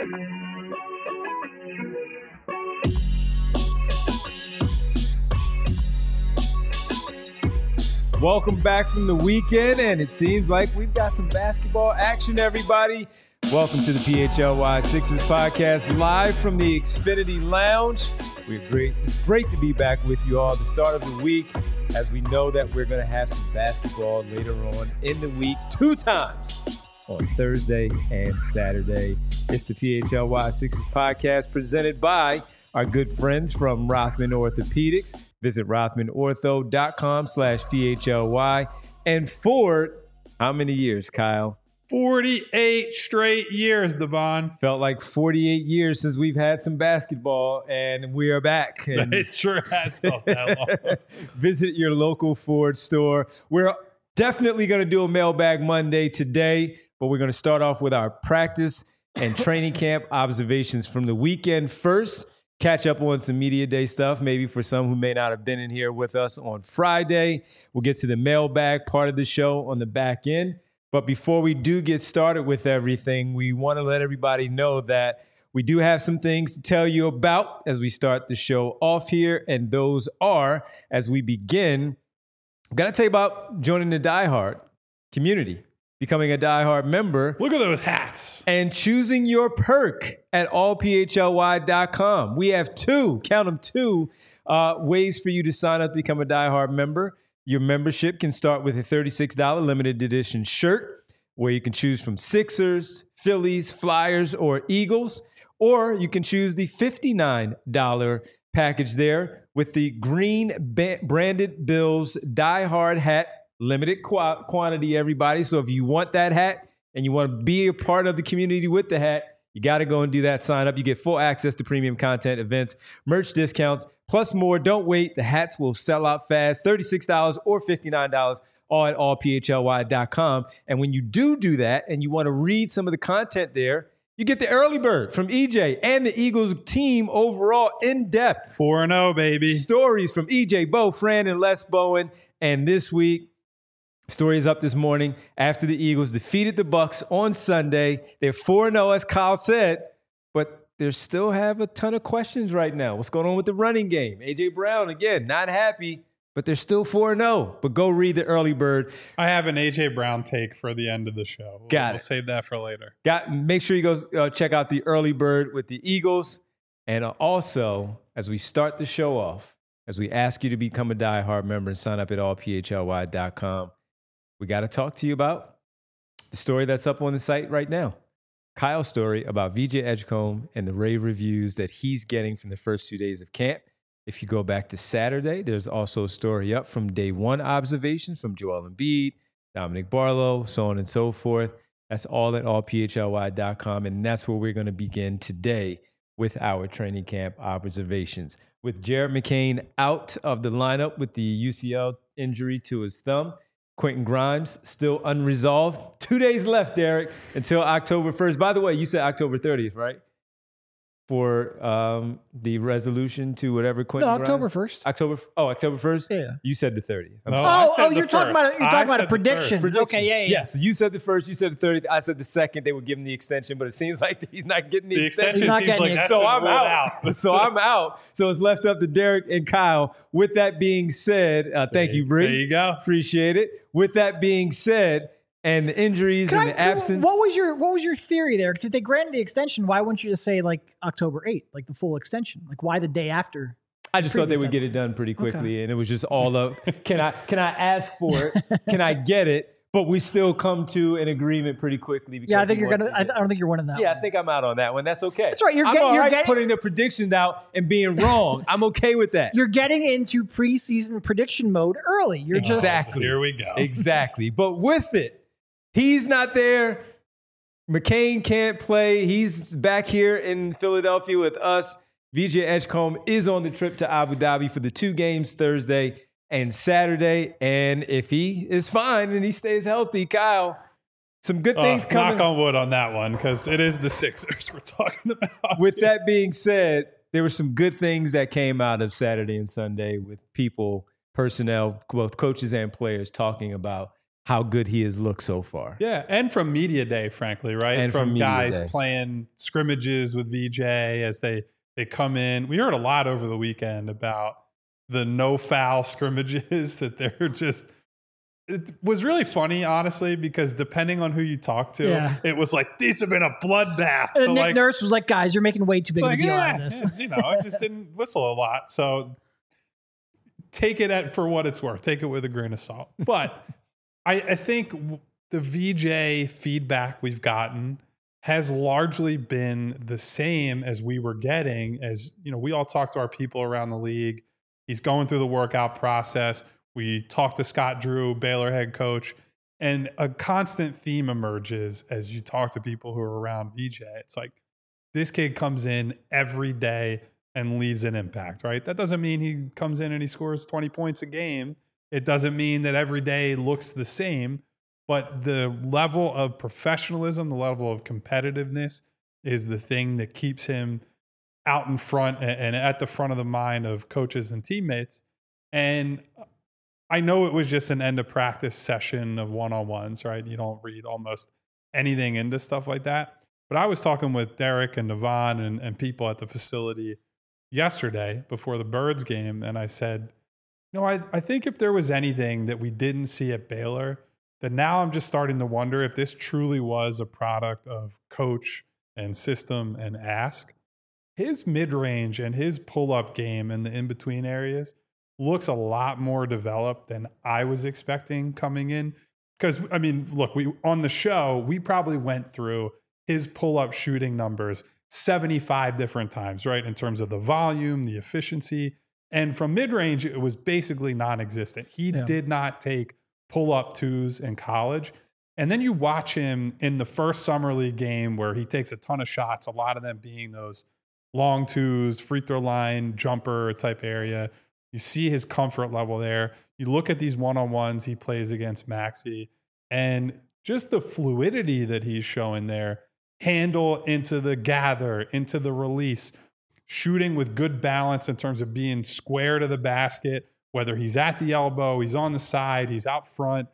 Welcome back from the weekend, and it seems like we've got some basketball action, everybody. Welcome to the PHLY Sixers podcast, live from the Xfinity Lounge. It's great to be back with you all at the start of the week, as we know that we're going to have some basketball later on in the week, 2 times on Thursday and Saturday. It's the PHLY Sixers podcast presented by our good friends from Rothman Orthopedics. Visit rothmanortho.com/PHLY. And for how many years, Kyle? 48 straight years, Devon. Felt like 48 years since we've had some basketball, and we are back. And It sure has felt that long. Visit your local Ford store. We're definitely going to do a Mailbag Monday today, but we're going to start off with our practice and training camp observations from the weekend first. Catch up on some media day stuff, maybe for some who may not have been in here with us on Friday. We'll get to the mailbag part of the show on the back end. But before we do get started with everything, we want to let everybody know that we do have some things to tell you about as we start the show off here. And those are, as we begin, I'm going to tell you about joining the Die Hard community, becoming a Die Hard member. Look at those hats. And choosing your perk at allphly.com. We have 2 ways for you to sign up to become a Die Hard member. Your membership can start with a $36 limited edition shirt, where you can choose from Sixers, Phillies, Flyers, or Eagles. Or you can choose the $59 package there with the green branded Bills Die Hard hat. Limited quantity, everybody. So if you want that hat and you want to be a part of the community with the hat, you got to go and do that sign up. You get full access to premium content, events, merch discounts, plus more. Don't wait. The hats will sell out fast. $36 or $59 all at allphly.com. And when you do that and you want to read some of the content there, you get the early bird from EJ and the Eagles team overall in depth. 4-0, baby. Stories from EJ, Bo, Fran, and Les Bowen. And this week, story is up this morning after the Eagles defeated the Bucs on Sunday. They're 4-0, as Kyle said, but they still have a ton of questions right now. What's going on with the running game? A.J. Brown, again, not happy, but they're still 4-0. But go read the early bird. I have an A.J. Brown take for the end of the show. We'll save that for later. Make sure you go check out the early bird with the Eagles. And also, as we start the show off, as we ask you to become a Die Hard member and sign up at allphly.com, we got to talk to you about the story that's up on the site right now. Kyle's story about VJ Edgecombe and the rave reviews that he's getting from the first 2 days of camp. If you go back to Saturday, there's also a story up from day 1 observations from Joel Embiid, Dominic Barlow, so on and so forth. That's all at allphly.com, and that's where we're going to begin today with our training camp observations. With Jared McCain out of the lineup with the UCL injury to his thumb, Quentin Grimes still unresolved. 2 days left, Derek, until October 1st. By the way, you said October 30th, right? For the resolution to whatever Quentin Grimes? October 1st. October 1st? Yeah. You said the 30th. You're talking about a prediction. Okay, yeah. Yes, you said the 1st, you said the 30th. I said the 2nd. They would give him the extension, but it seems like he's not getting the extension. Seems like that's so I'm out. So I'm out. So it's left up to Derek and Kyle. With that being said, thank you, Britt. There you go. Appreciate it. With that being said, and the injuries and the absence. What was your theory there? Because if they granted the extension, why wouldn't you just say like October 8th, like the full extension? Like why the day after? I just thought they would get it done pretty quickly, and it was just all of can I ask for it? Can I get it? But we still come to an agreement pretty quickly. Because I think you're gonna. I don't think you're winning that. Yeah, one. I think I'm out on that one. That's okay. That's right. I'm all right putting the predictions out and being wrong. I'm okay with that. You're getting into preseason prediction mode early. You're exactly. Here we go. Exactly. But with it. He's not there. McCain can't play. He's back here in Philadelphia with us. VJ Edgecombe is on the trip to Abu Dhabi for the 2 games Thursday and Saturday. And if he is fine and he stays healthy, Kyle, some good things coming. Knock on wood on that one, because it is the Sixers we're talking about. With that being said, there were some good things that came out of Saturday and Sunday with people, personnel, both coaches and players talking about how good he has looked so far. Yeah, and from media day, frankly, right? And from guys playing scrimmages with VJ as they come in. We heard a lot over the weekend about the no foul scrimmages that they're just. It was really funny, honestly, because depending on who you talk to, it was like, these have been a bloodbath. And Nick Nurse was like, guys, you're making way too big of a deal out of this. I just didn't whistle a lot. So take it for what it's worth. Take it with a grain of salt. But I think the VJ feedback we've gotten has largely been the same as we were getting as, we all talk to our people around the league. He's going through the workout process. We talked to Scott Drew, Baylor head coach, and a constant theme emerges as you talk to people who are around VJ. It's like, this kid comes in every day and leaves an impact, right? That doesn't mean he comes in and he scores 20 points a game. It doesn't mean that every day looks the same, but the level of professionalism, the level of competitiveness is the thing that keeps him out in front and at the front of the mind of coaches and teammates. And I know it was just an end of practice session of one-on-ones, right? You don't read almost anything into stuff like that. But I was talking with Derek and Devon and people at the facility yesterday before the Birds game, and I said, I think if there was anything that we didn't see at Baylor, that now I'm just starting to wonder if this truly was a product of coach and system and ask. His mid-range and his pull-up game in the in-between areas looks a lot more developed than I was expecting coming in. Because, look, on the show, we probably went through his pull-up shooting numbers 75 different times, right? In terms of the volume, the efficiency. And from mid-range, it was basically non-existent. He did not take pull-up twos in college. And then you watch him in the first summer league game where he takes a ton of shots, a lot of them being those long twos, free throw line, jumper type area. You see his comfort level there. You look at these one-on-ones he plays against Maxey, and just the fluidity that he's showing there, handle into the gather, into the release, shooting with good balance in terms of being square to the basket, whether he's at the elbow, he's on the side, he's out front.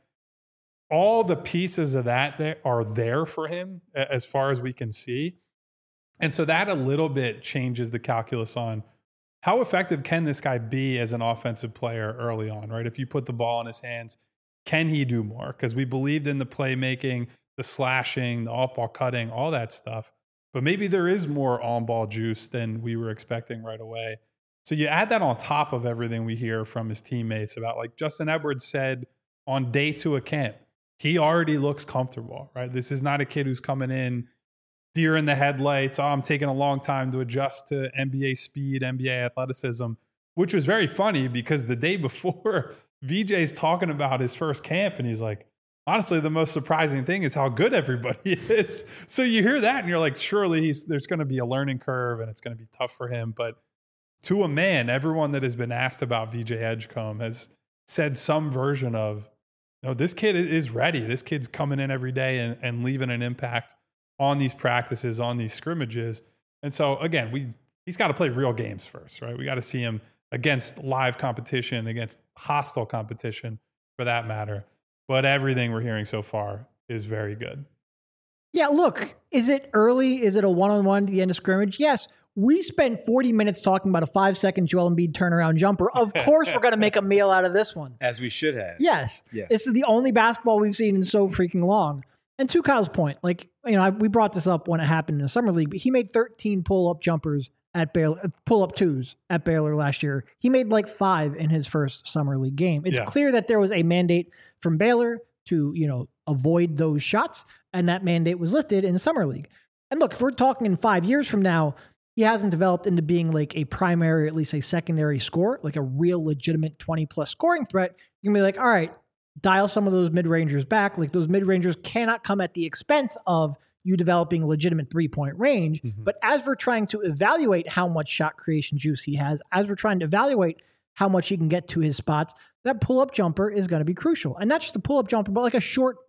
All the pieces of that are there for him as far as we can see. And so that a little bit changes the calculus on how effective can this guy be as an offensive player early on, right? If you put the ball in his hands, can he do more? Because we believed in the playmaking, the slashing, the off-ball cutting, all that stuff. But maybe there is more on-ball juice than we were expecting right away. So you add that on top of everything we hear from his teammates about, like Justin Edwards said on day 2 of camp, he already looks comfortable, right? This is not a kid who's coming in deer in the headlights. I'm taking a long time to adjust to NBA speed, NBA athleticism, which was very funny because the day before, VJ's talking about his first camp and he's like, honestly, the most surprising thing is how good everybody is. So you hear that and you're like, surely there's going to be a learning curve and it's going to be tough for him. But to a man, everyone that has been asked about VJ Edgecombe has said some version of, this kid is ready. This kid's coming in every day and leaving an impact on these practices, on these scrimmages. And so, again, he's got to play real games first, right? We got to see him against live competition, against hostile competition for that matter. But everything we're hearing so far is very good. Yeah, look, is it early? Is it a one-on-one to the end of scrimmage? Yes. We spent 40 minutes talking about a 5-second Joel Embiid turnaround jumper. Of course, we're going to make a meal out of this one. As we should have. Yes. This is the only basketball we've seen in so freaking long. And to Kyle's point, we brought this up when it happened in the summer league, but he made 13 pull-up jumpers at Baylor, pull-up twos at Baylor last year. He made 5 in his first summer league game. It's clear that there was a mandate from Baylor to, avoid those shots, and that mandate was lifted in the summer league. And look, if we're talking in 5 years from now, he hasn't developed into being a primary, or at least a secondary scorer, a real legitimate 20-plus scoring threat. You can be all right, dial some of those mid-rangers back. Those mid-rangers cannot come at the expense of you developing legitimate three-point range. Mm-hmm. But as we're trying to evaluate how much shot creation juice he has, as we're trying to evaluate how much he can get to his spots, that pull-up jumper is going to be crucial. And not just a pull-up jumper, but a short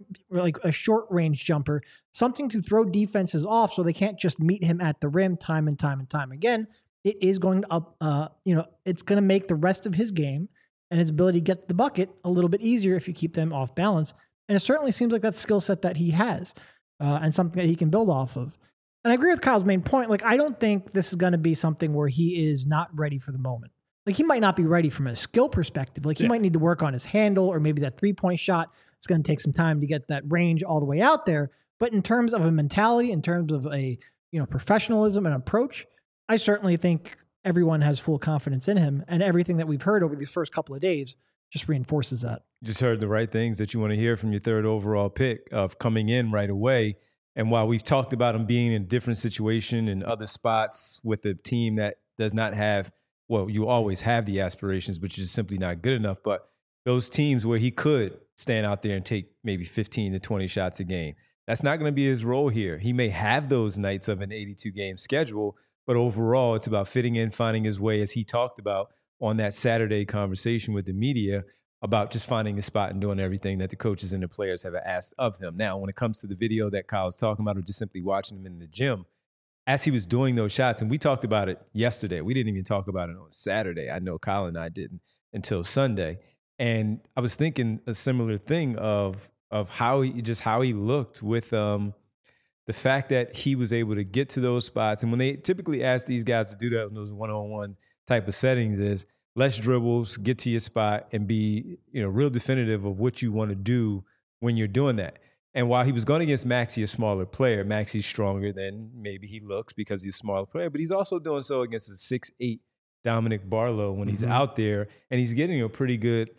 range jumper, something to throw defenses off so they can't just meet him at the rim time and time and time again. It is going to it's going to make the rest of his game and his ability to get the bucket a little bit easier if you keep them off balance. And it certainly seems like that skill set that he has and something that he can build off of. And I agree with Kyle's main point. Like, I don't think this is going to be something where he is not ready for the moment. Like, he might not be ready from a skill perspective. Like, he might need to work on his handle, or maybe that 3-point shot. It's going to take some time to get that range all the way out there. But in terms of a mentality, in terms of a, professionalism and approach, I certainly think everyone has full confidence in him. And everything that we've heard over these first couple of days just reinforces that. You just heard the right things that you want to hear from your third overall pick of coming in right away. And while we've talked about him being in a different situation in other spots with a team that does not have, well, you always have the aspirations, but you're just simply not good enough. But those teams where he could stand out there and take maybe 15 to 20 shots a game, that's not going to be his role here. He may have those nights of an 82-game schedule, but overall it's about fitting in, finding his way, as he talked about on that Saturday conversation with the media, about just finding a spot and doing everything that the coaches and the players have asked of him. Now, when it comes to the video that Kyle's talking about, or just simply watching him in the gym, as he was doing those shots, and we talked about it yesterday, we didn't even talk about it on Saturday. I know Kyle and I didn't until Sunday. And I was thinking a similar thing of how he looked with the fact that he was able to get to those spots. And when they typically ask these guys to do that in those one-on-one type of settings, is less dribbles, get to your spot, and be real definitive of what you want to do when you're doing that. And while he was going against Maxey, a smaller player, Maxey's stronger than maybe he looks because he's a smaller player, but he's also doing so against a 6'8" Dominic Barlow when he's out there, and he's getting a pretty good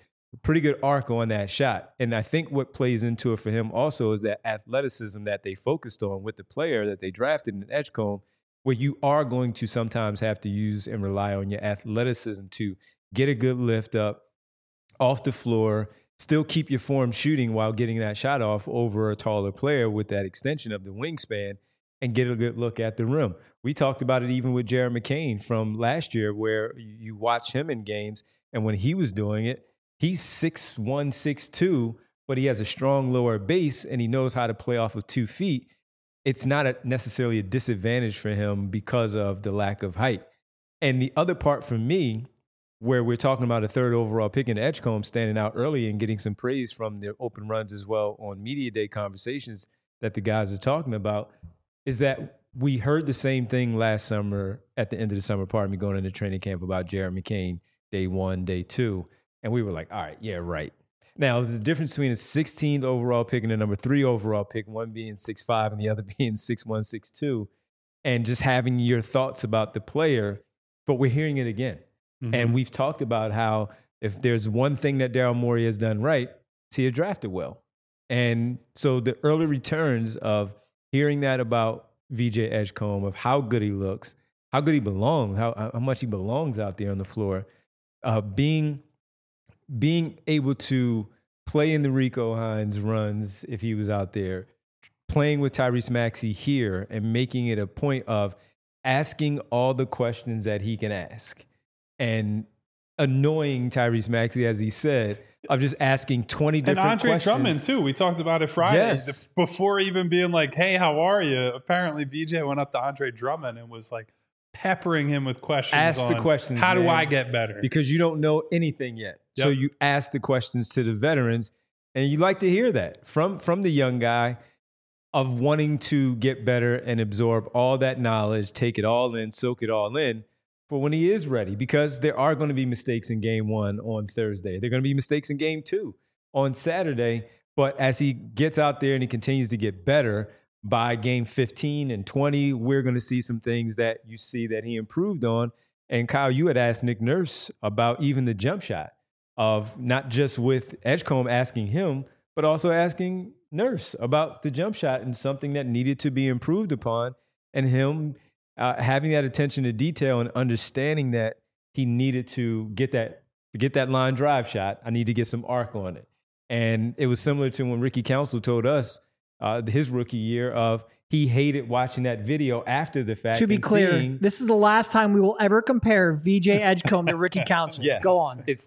arc on that shot. And I think what plays into it for him also is that athleticism that they focused on with the player that they drafted in Edgecombe, where you are going to sometimes have to use and rely on your athleticism to get a good lift up off the floor, still keep your form shooting while getting that shot off over a taller player with that extension of the wingspan, and get a good look at the rim. We talked about it even with Jared McCain from last year, where you watch him in games, and when he was doing it, he's 6'1", 6'2", but he has a strong lower base, and he knows how to play off of 2 feet. It's not necessarily a disadvantage for him because of the lack of height. And the other part for me, where we're talking about a third overall pick in Edgecombe standing out early and getting some praise from the open runs as well on media day conversations that the guys are talking about, is that we heard the same thing last summer at the end of the summer, going into training camp, about Jared McCain, day 1, day 2. And we were like, all right, yeah, right. Now, there's a difference between a 16th overall pick and a number 3 overall pick, one being 6'5" and the other being 6'1", 6'2", and just having your thoughts about the player, but we're hearing it again. And we've talked about how if there's one thing that Daryl Morey has done right, it's he had drafted well. And so the early returns of hearing that about VJ Edgecombe, of how good he looks, how good he belongs, how much he belongs out there on the floor, being able to play in the Rico Hines runs if he was out there, playing with Tyrese Maxey here, and making it a point of asking all the questions that he can ask, and annoying Tyrese Maxey, as he said, of just asking 20 different questions. And Andre Drummond, too. We talked about it Friday. Yes. Before even being like, hey, how are you? Apparently, VJ went up to Andre Drummond and was like peppering him with questions. Ask the questions, how man, do I get better? Because you don't know anything yet. Yep. So you ask the questions to the veterans, and you like to hear that from the young guy, of wanting to get better and absorb all that knowledge, take it all in, soak it all in, for when he is ready, because there are going to be mistakes in game 1 on Thursday. There are going to be mistakes in game 2 on Saturday. But as he gets out there and he continues to get better, by game 15 and 20, we're going to see some things that you see that he improved on. And Kyle, you had asked Nick Nurse about even the jump shot, of not just with Edgecombe asking him, but also asking Nurse about the jump shot and something that needed to be improved upon, and him having that attention to detail and understanding that he needed to get that line drive shot. I need to get some arc on it. And it was similar to when Ricky Council told us his rookie year, of he hated watching that video after the fact. To be clear, this is the last time we will ever compare VJ Edgecombe to Ricky Council. Yes. Go on. It's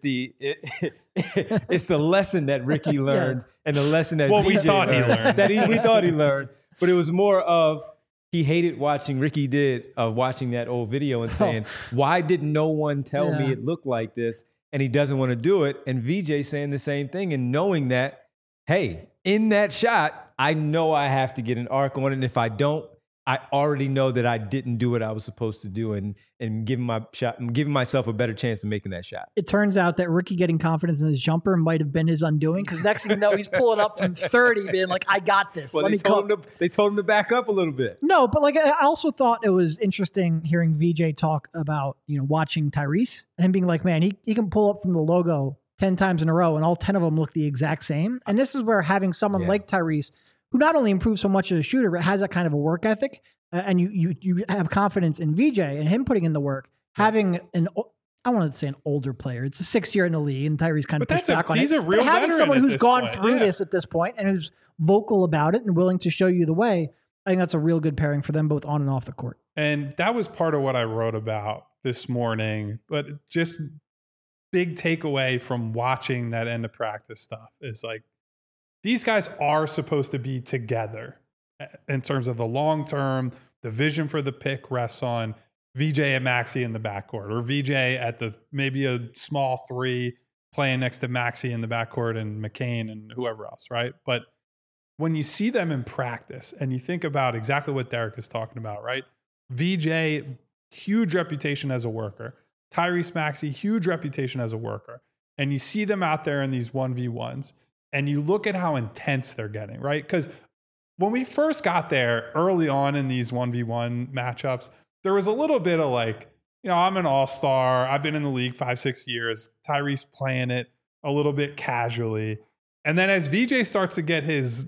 it's the lesson that Ricky learned, yes, and the lesson that we thought he learned. We thought he learned. But it was more of, he hated watching watching that old video and saying, why did no one tell me it looked like this? And he doesn't want to do it. And VJ saying the same thing, and knowing that hey, in that shot, I know I have to get an arc on it. And if I don't, I already know that I didn't do what I was supposed to do and giving myself a better chance of making that shot. It turns out that Ricky getting confidence in his jumper might have been his undoing, because next thing you know, he's pulling up from 30, being like, I got this. Well, Let me cook. They told him to back up a little bit. No, but like, I also thought it was interesting hearing VJ talk about, watching Tyrese and him being like, man, he can pull up from the logo 10 times in a row and all 10 of them look the exact same. And this is where having someone like Tyrese, who not only improves so much as a shooter, but has that kind of a work ethic, and you have confidence in VJ and him putting in the work, having I wanted to say an older player. It's the 6th year in the league, and Tyrese kind of pushed back on it. He's a real having someone who's gone through this at this point and who's vocal about it and willing to show you the way, I think that's a real good pairing for them both on and off the court. And that was part of what I wrote about this morning. But just big takeaway from watching that end of practice stuff is like, these guys are supposed to be together in terms of the long term. The vision for the pick rests on VJ and Maxey in the backcourt, or VJ at maybe a small 3 playing next to Maxey in the backcourt and McCain and whoever else, right? But when you see them in practice and you think about exactly what Derek is talking about, right? VJ, huge reputation as a worker. Tyrese Maxey, huge reputation as a worker. And you see them out there in these 1v1s and you look at how intense they're getting, right? Because when we first got there early on in these 1v1 matchups, there was a little bit of like, I'm an all-star. I've been in the league 5-6 years. Tyrese playing it a little bit casually. And then as VJ starts to get his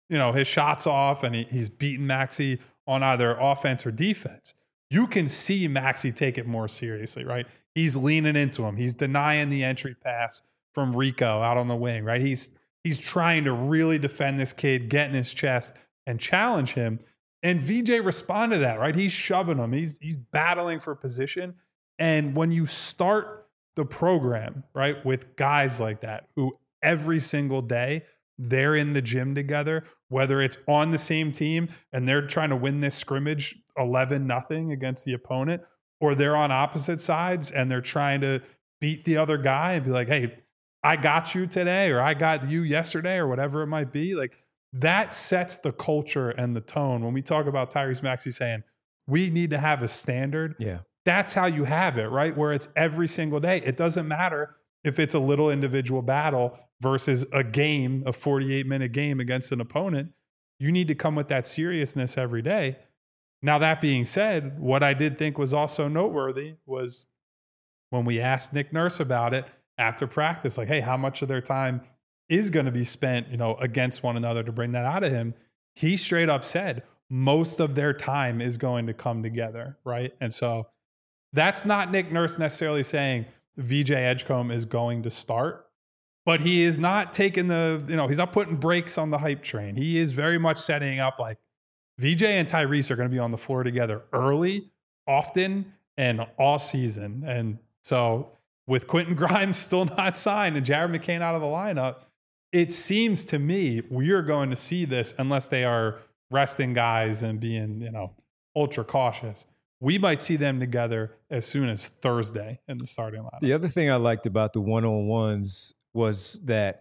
shots off and he's beating Maxey on either offense or defense, you can see Maxey take it more seriously, right? He's leaning into him. He's denying the entry pass from Rico out on the wing, right? He's trying to really defend this kid, get in his chest and challenge him. And VJ responded to that, right? He's shoving him. He's battling for position. And when you start the program, right, with guys like that, who every single day they're in the gym together, whether it's on the same team and they're trying to win this scrimmage 11-0 against the opponent, or they're on opposite sides and they're trying to beat the other guy and be like, hey, I got you today, or I got you yesterday, or whatever it might be. Like, that sets the culture and the tone. When we talk about Tyrese Maxey saying, we need to have a standard. Yeah. That's how you have it, right? Where it's every single day. It doesn't matter if it's a little individual battle versus a game, a 48-minute game against an opponent. You need to come with that seriousness every day. Now, that being said, what I did think was also noteworthy was when we asked Nick Nurse about it after practice, like, hey, how much of their time is going to be spent, against one another to bring that out of him? He straight up said most of their time is going to come together, right? And so that's not Nick Nurse necessarily saying VJ Edgecombe is going to start, but he is not taking he's not putting brakes on the hype train. He is very much setting up like VJ and Tyrese are going to be on the floor together early, often, and all season. And so with Quentin Grimes still not signed and Jared McCain out of the lineup, it seems to me we are going to see this, unless they are resting guys and being, ultra cautious. We might see them together as soon as Thursday in the starting lineup. The other thing I liked about the one-on-ones was that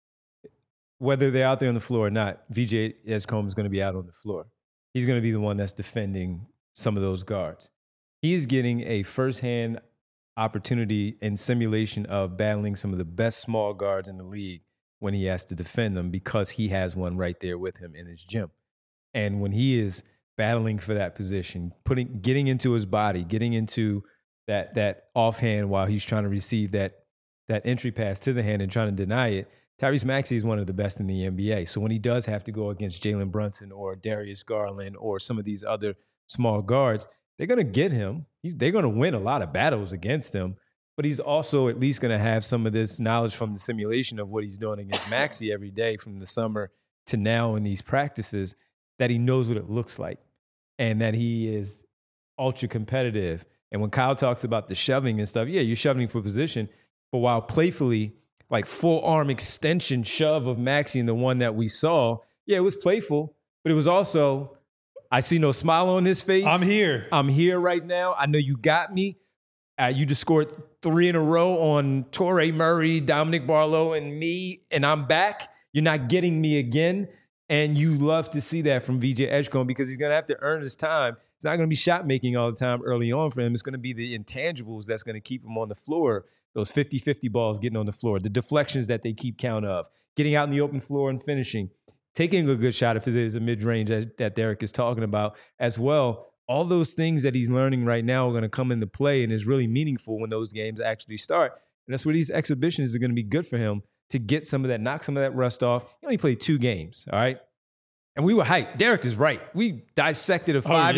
whether they're out there on the floor or not, VJ Edgecombe is going to be out on the floor. He's going to be the one that's defending some of those guards. He is getting a firsthand opportunity and simulation of battling some of the best small guards in the league when he has to defend them, because he has one right there with him in his gym. And when he is battling for that position, getting into his body, getting into that offhand while he's trying to receive that entry pass to the hand and trying to deny it, Tyrese Maxey is one of the best in the NBA. So when he does have to go against Jalen Brunson or Darius Garland or some of these other small guards, they're going to get him. They're going to win a lot of battles against him, but he's also at least going to have some of this knowledge from the simulation of what he's doing against Maxey every day from the summer to now in these practices, that he knows what it looks like and that he is ultra competitive. And when Kyle talks about the shoving and stuff, yeah, you're shoving for position, but while playfully, like full arm extension shove of Maxey and the one that we saw, yeah, it was playful, but it was also, I see no smile on his face. I'm here right now. I know you got me. You just scored 3 in a row on Torrey Murray, Dominic Barlow, and me, and I'm back. You're not getting me again. And you love to see that from VJ Edgecombe because he's going to have to earn his time. It's not going to be shot making all the time early on for him. It's going to be the intangibles that's going to keep him on the floor. Those 50-50 balls getting on the floor, the deflections that they keep count of, getting out in the open floor and finishing, taking a good shot if it is a mid-range that Derek is talking about as well. All those things that he's learning right now are going to come into play and is really meaningful when those games actually start. And that's where these exhibitions are going to be good for him to get some of that, knock some of that rust off. He only played 2 games, all right? And we were hyped. Derek is right. We dissected a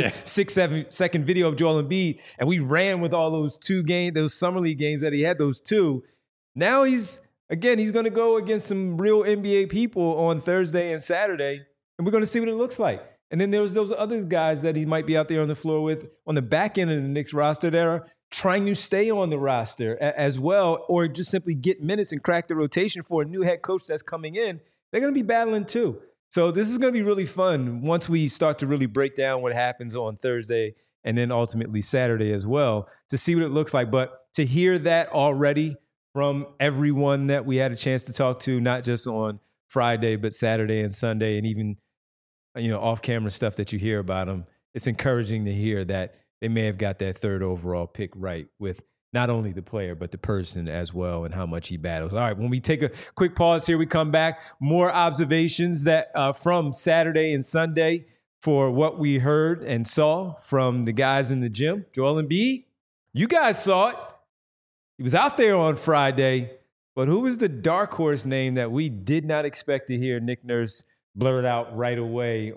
5-6 second video of Joel Embiid, and we ran with all those 2 games, those summer league games that he had, those 2. Now he's going to go against some real NBA people on Thursday and Saturday, and we're going to see what it looks like. And then there's those other guys that he might be out there on the floor with on the back end of the Knicks roster that are trying to stay on the roster as well, or just simply get minutes and crack the rotation for a new head coach that's coming in. They're going to be battling too. So this is going to be really fun once we start to really break down what happens on Thursday and then ultimately Saturday as well to see what it looks like. But to hear that already from everyone that we had a chance to talk to, not just on Friday, but Saturday and Sunday, and even, off-camera stuff that you hear about them, it's encouraging to hear that they may have got that 3rd overall pick right with not only the player, but the person as well and how much he battles. All right, when we take a quick pause here, we come back. More observations that from Saturday and Sunday for what we heard and saw from the guys in the gym. Joel Embiid, you guys saw it. He was out there on Friday, but who was the dark horse name that we did not expect to hear Nick Nurse blurt out right away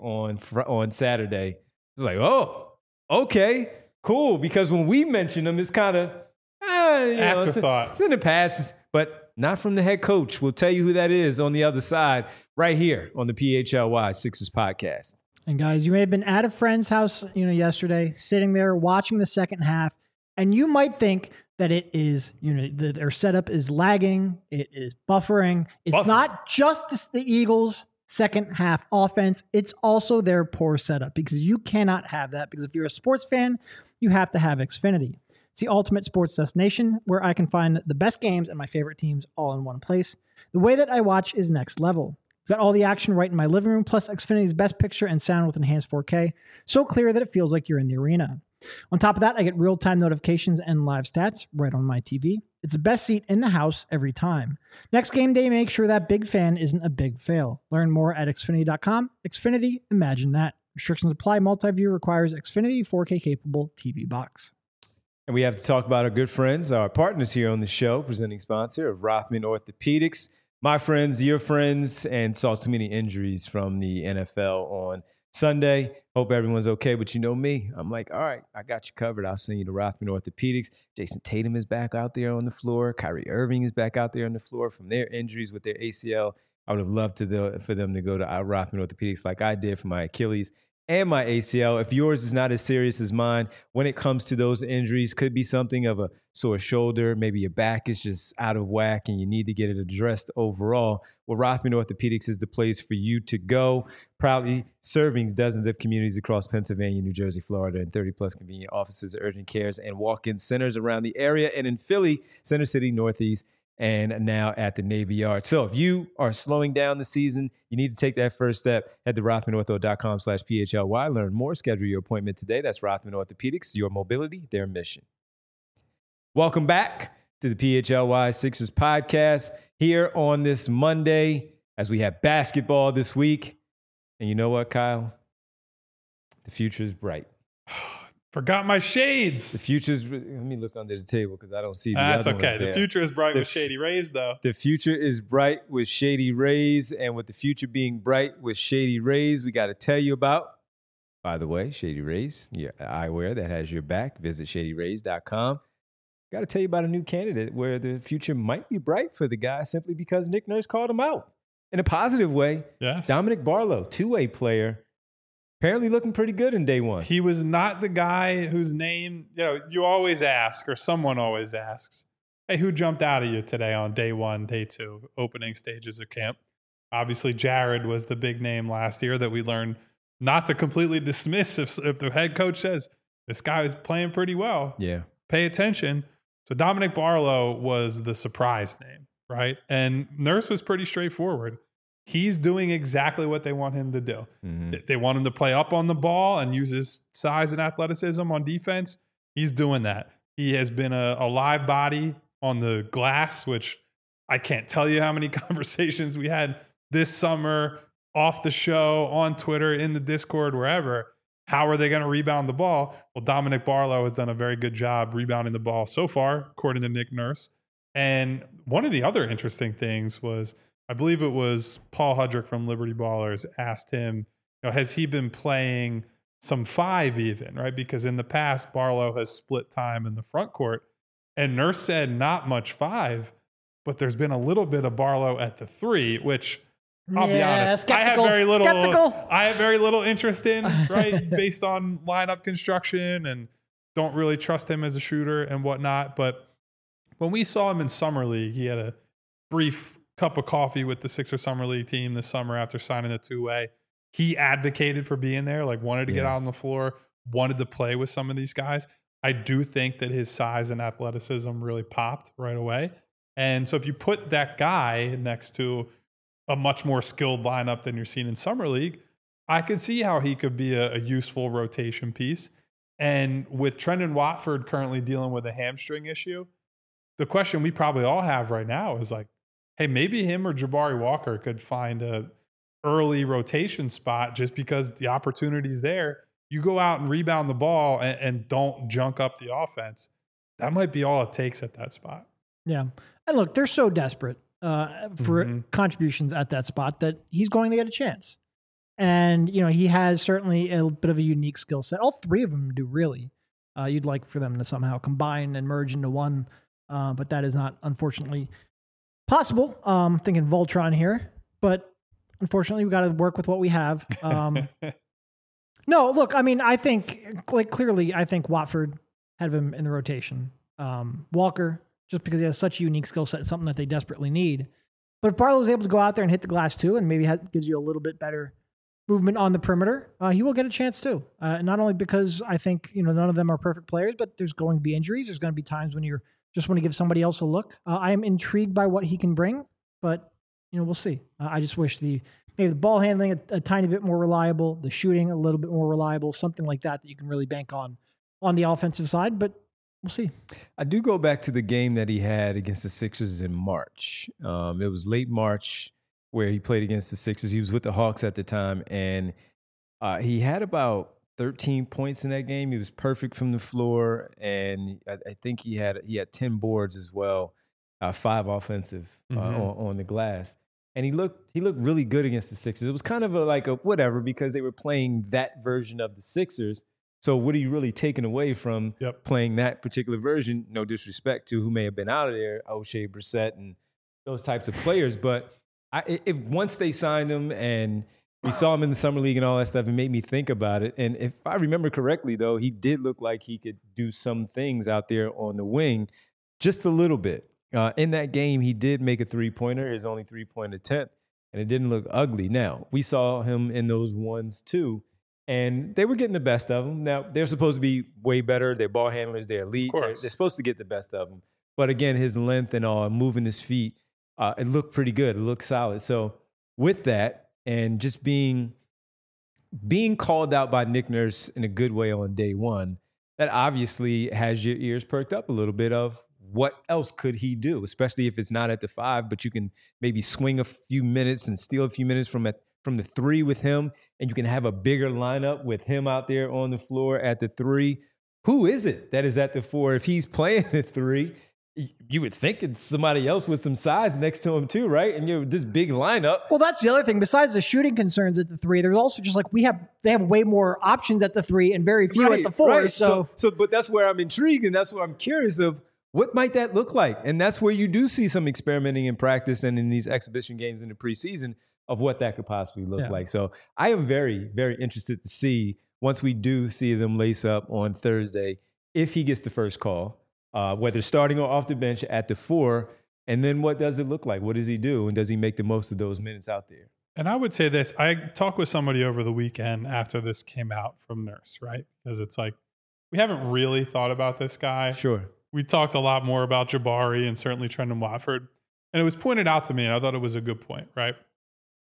on Saturday? It was like, oh, okay, cool, because when we mentioned him, it's kind of afterthought. It's in the past, but not from the head coach. We'll tell you who that is on the other side right here on the PHLY Sixers podcast. And guys, you may have been at a friend's house, yesterday, sitting there watching the second half, and you might think that it is, their setup is lagging, it is buffering. It's not just the Eagles' second half offense, it's also their poor setup, because you cannot have that, because if you're a sports fan, you have to have Xfinity. It's the ultimate sports destination where I can find the best games and my favorite teams all in one place. The way that I watch is next level. I've got all the action right in my living room, plus Xfinity's best picture and sound with enhanced 4K, so clear that it feels like you're in the arena. On top of that, I get real-time notifications and live stats right on my TV. It's the best seat in the house every time. Next game day, make sure that big fan isn't a big fail. Learn more at Xfinity.com. Xfinity, imagine that. Restrictions apply. Multi-view requires Xfinity 4K capable TV box. And we have to talk about our good friends, our partners here on the show, presenting sponsor of Rothman Orthopedics. My friends, your friends, and saw too many injuries from the NFL on Sunday. Hope everyone's okay, but you know me. I'm like, all right, I got you covered. I'll send you to Rothman Orthopedics. Jason Tatum is back out there on the floor. Kyrie Irving is back out there on the floor from their injuries with their ACL. I would have loved for them to go to Rothman Orthopedics like I did for my Achilles and my ACL. If yours is not as serious as mine, when it comes to those injuries, could be something of a sore shoulder, maybe your back is just out of whack and you need to get it addressed overall. Well, Rothman Orthopedics is the place for you to go. Proudly serving dozens of communities across Pennsylvania, New Jersey, Florida, and 30-plus convenient offices, urgent cares, and walk-in centers around the area, and in Philly, Center City, Northeast, and now at the Navy Yard. So if you are slowing down the season, you need to take that first step. Head to rothmanortho.com/PHLY. Learn more. Schedule your appointment today. That's Rothman Orthopedics, your mobility, their mission. Welcome back to the PHLY Sixers podcast here on this Monday as we have basketball this week. And you know what, Kyle? The future is bright. Forgot my shades. The future's. Let me look under the table because I don't see the That's other okay. ones there. The future is bright with Shady Rays, though. The future is bright with Shady Rays, and with the future being bright with Shady Rays, we got to tell you about. By the way, Shady Rays, your eyewear that has your back. Visit ShadyRays.com. Got to tell you about a new candidate where the future might be bright for the guy simply because Nick Nurse called him out in a positive way. Yes, Dominic Barlow, two-way player. Apparently looking pretty good in day one. He was not the guy whose name, you always ask, or someone always asks, hey, who jumped out at you today on day one, day two, opening stages of camp? Obviously, Jared was the big name last year that we learned not to completely dismiss if the head coach says, this guy is playing pretty well. Yeah. Pay attention. So Dominic Barlow was the surprise name, right? And Nurse was pretty straightforward. he's doing exactly what they want him to do. Mm-hmm. They want him to play up on the ball and use his size and athleticism on defense. He's doing that. He has been a live body on the glass, which I can't tell you how many conversations we had this summer off the show, on Twitter, in the Discord, wherever. How are they going to rebound the ball? Well, Dominic Barlow has done a very good job rebounding the ball so far, according to Nick Nurse. And one of the other interesting things was, I believe it was Paul Hudrick from Liberty Ballers asked him, has he been playing some 5 even, right? Because in the past, Barlow has split time in the front court. And Nurse said not much 5, but there's been a little bit of Barlow at the 3, which I'll be honest, skeptical. I have very little interest in, right? Based on lineup construction, and don't really trust him as a shooter and whatnot. But when we saw him in Summer League, he had a brief cup of coffee with the Sixers Summer League team this summer after signing a 2-way. He advocated for being there, like wanted to get out on the floor, wanted to play with some of these guys. I do think that his size and athleticism really popped right away. And so if you put that guy next to a much more skilled lineup than you're seeing in Summer League, I could see how he could be a useful rotation piece. And with Trendon Watford currently dealing with a hamstring issue, the question we probably all have right now is like, hey, maybe him or Jabari Walker could find a early rotation spot just because the opportunity's there. You go out and rebound the ball and don't junk up the offense. That might be all it takes at that spot. Yeah. And look, they're so desperate for contributions at that spot that he's going to get a chance. And, he has certainly a bit of a unique skill set. All 3 of them do, really. You'd like for them to somehow combine and merge into one, but that is not, unfortunately, possible. Thinking Voltron here, but unfortunately, we've got to work with what we have. No, look, I mean, I think, clearly, I think Watford had him in the rotation. Walker, just because he has such a unique skill set, something that they desperately need. But if Barlow's able to go out there and hit the glass too, and maybe gives you a little bit better movement on the perimeter, he will get a chance too. Not only because I think, none of them are perfect players, but there's going to be injuries. There's going to be times when you're just want to give somebody else a look. I am intrigued by what he can bring, but, we'll see. I just wish maybe the ball handling a tiny bit more reliable, the shooting a little bit more reliable, something like that you can really bank on the offensive side, but we'll see. I do go back to the game that he had against the Sixers in March. It was late March where he played against the Sixers. He was with the Hawks at the time, and he had about 13 points in that game. He was perfect from the floor, and I think he had 10 boards as well, 5 offensive on the glass. And he looked really good against the Sixers. It was kind of like a whatever because they were playing that version of the Sixers. So what are you really taking away from playing that particular version? No disrespect to who may have been out of there, O'Shea Brissett and those types of players. But once they signed him and we saw him in the Summer League and all that stuff, it made me think about it. And if I remember correctly, though, he did look like he could do some things out there on the wing just a little bit. In that game, he did make a 3-pointer, his only 3-point attempt, and it didn't look ugly. Now, we saw him in those ones, too. And they were getting the best of them. Now, they're supposed to be way better. They're ball handlers. They're elite. They're supposed to get the best of them. But again, his length and all, moving his feet, it looked pretty good. It looked solid. So with that, and just being called out by Nick Nurse in a good way on day one, that obviously has your ears perked up a little bit of what else could he do, especially if it's not at the 5, but you can maybe swing a few minutes and steal a few minutes from the 3 with him, and you can have a bigger lineup with him out there on the floor at the 3. Who is it that is at the 4? If he's playing the 3, you would think it's somebody else with some size next to him too, right? And you're this big lineup. Well, that's the other thing. Besides the shooting concerns at the 3, there's also just they have way more options at the 3 and very few at the 4. Right. So, but that's where I'm intrigued, and that's where I'm curious of what might that look like. And that's where you do see some experimenting in practice and in these exhibition games in the preseason of what that could possibly look like. So I am very, very interested to see, once we do see them lace up on Thursday, if he gets the first call, whether starting or off the bench at the 4, and then what does it look like? What does he do? And does he make the most of those minutes out there? And I would say this, I talked with somebody over the weekend after this came out from Nurse, right? Because it's like, we haven't really thought about this guy. Sure. We talked a lot more about Jabari and certainly Trendon Watford. And it was pointed out to me, and I thought it was a good point, right?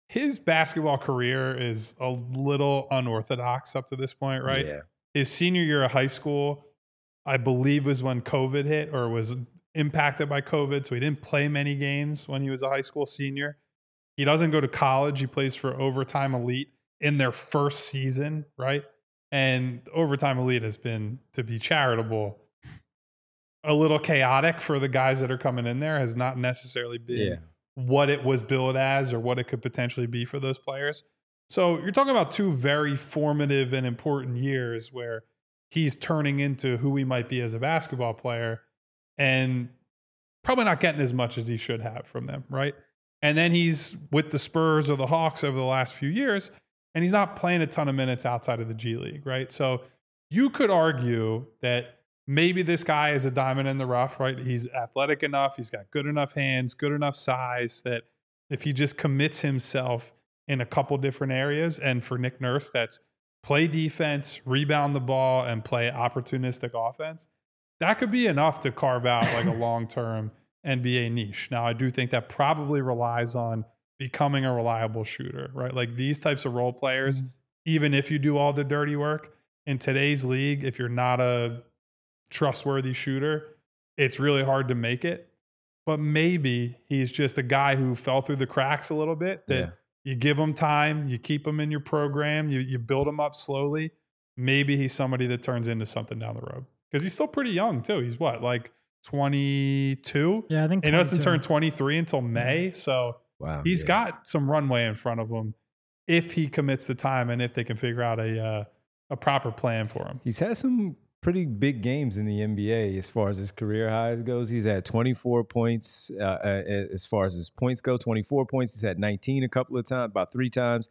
his basketball career is a little unorthodox up to this point, right? Yeah. His senior year of high school, I believe, was when COVID hit or was impacted by COVID. So he didn't play many games when he was a high school senior. He doesn't go to college. He plays for Overtime Elite in their first season, right? And Overtime Elite has been, to be charitable, a little chaotic for the guys that are coming in there, has not necessarily been what it was billed as or what it could potentially be for those players. So you're talking about two very formative and important years where he's turning into who he might be as a basketball player and probably not getting as much as he should have from them, right? And then he's with the Spurs or the Hawks over the last few years, and he's not playing a ton of minutes outside of the G League, right? So you could argue that maybe this guy is a diamond in the rough, right? He's athletic enough. He's got good enough hands, good enough size that if he just commits himself in a couple different areas, and for Nick Nurse, that's play defense, rebound the ball, and play opportunistic offense, that could be enough to carve out like a long-term NBA niche. Now, I do think that probably relies on becoming a reliable shooter, right? Like these types of role players, even if you do all the dirty work in today's league, if you're not a trustworthy shooter, it's really hard to make it. But maybe he's just a guy who fell through the cracks a little bit, that you give him time, you keep him in your program, you build him up slowly. Maybe he's somebody that turns into something down the road. Because he's still pretty young too. He's what, like 22? Yeah, I think he doesn't turn 23 until May. So he's got some runway in front of him if he commits the time and if they can figure out a proper plan for him. He's had some pretty big games in the NBA as far as his career highs goes. He's had 24 points as far as his points go, 24 points. He's had 19 a couple of times, about 3 times.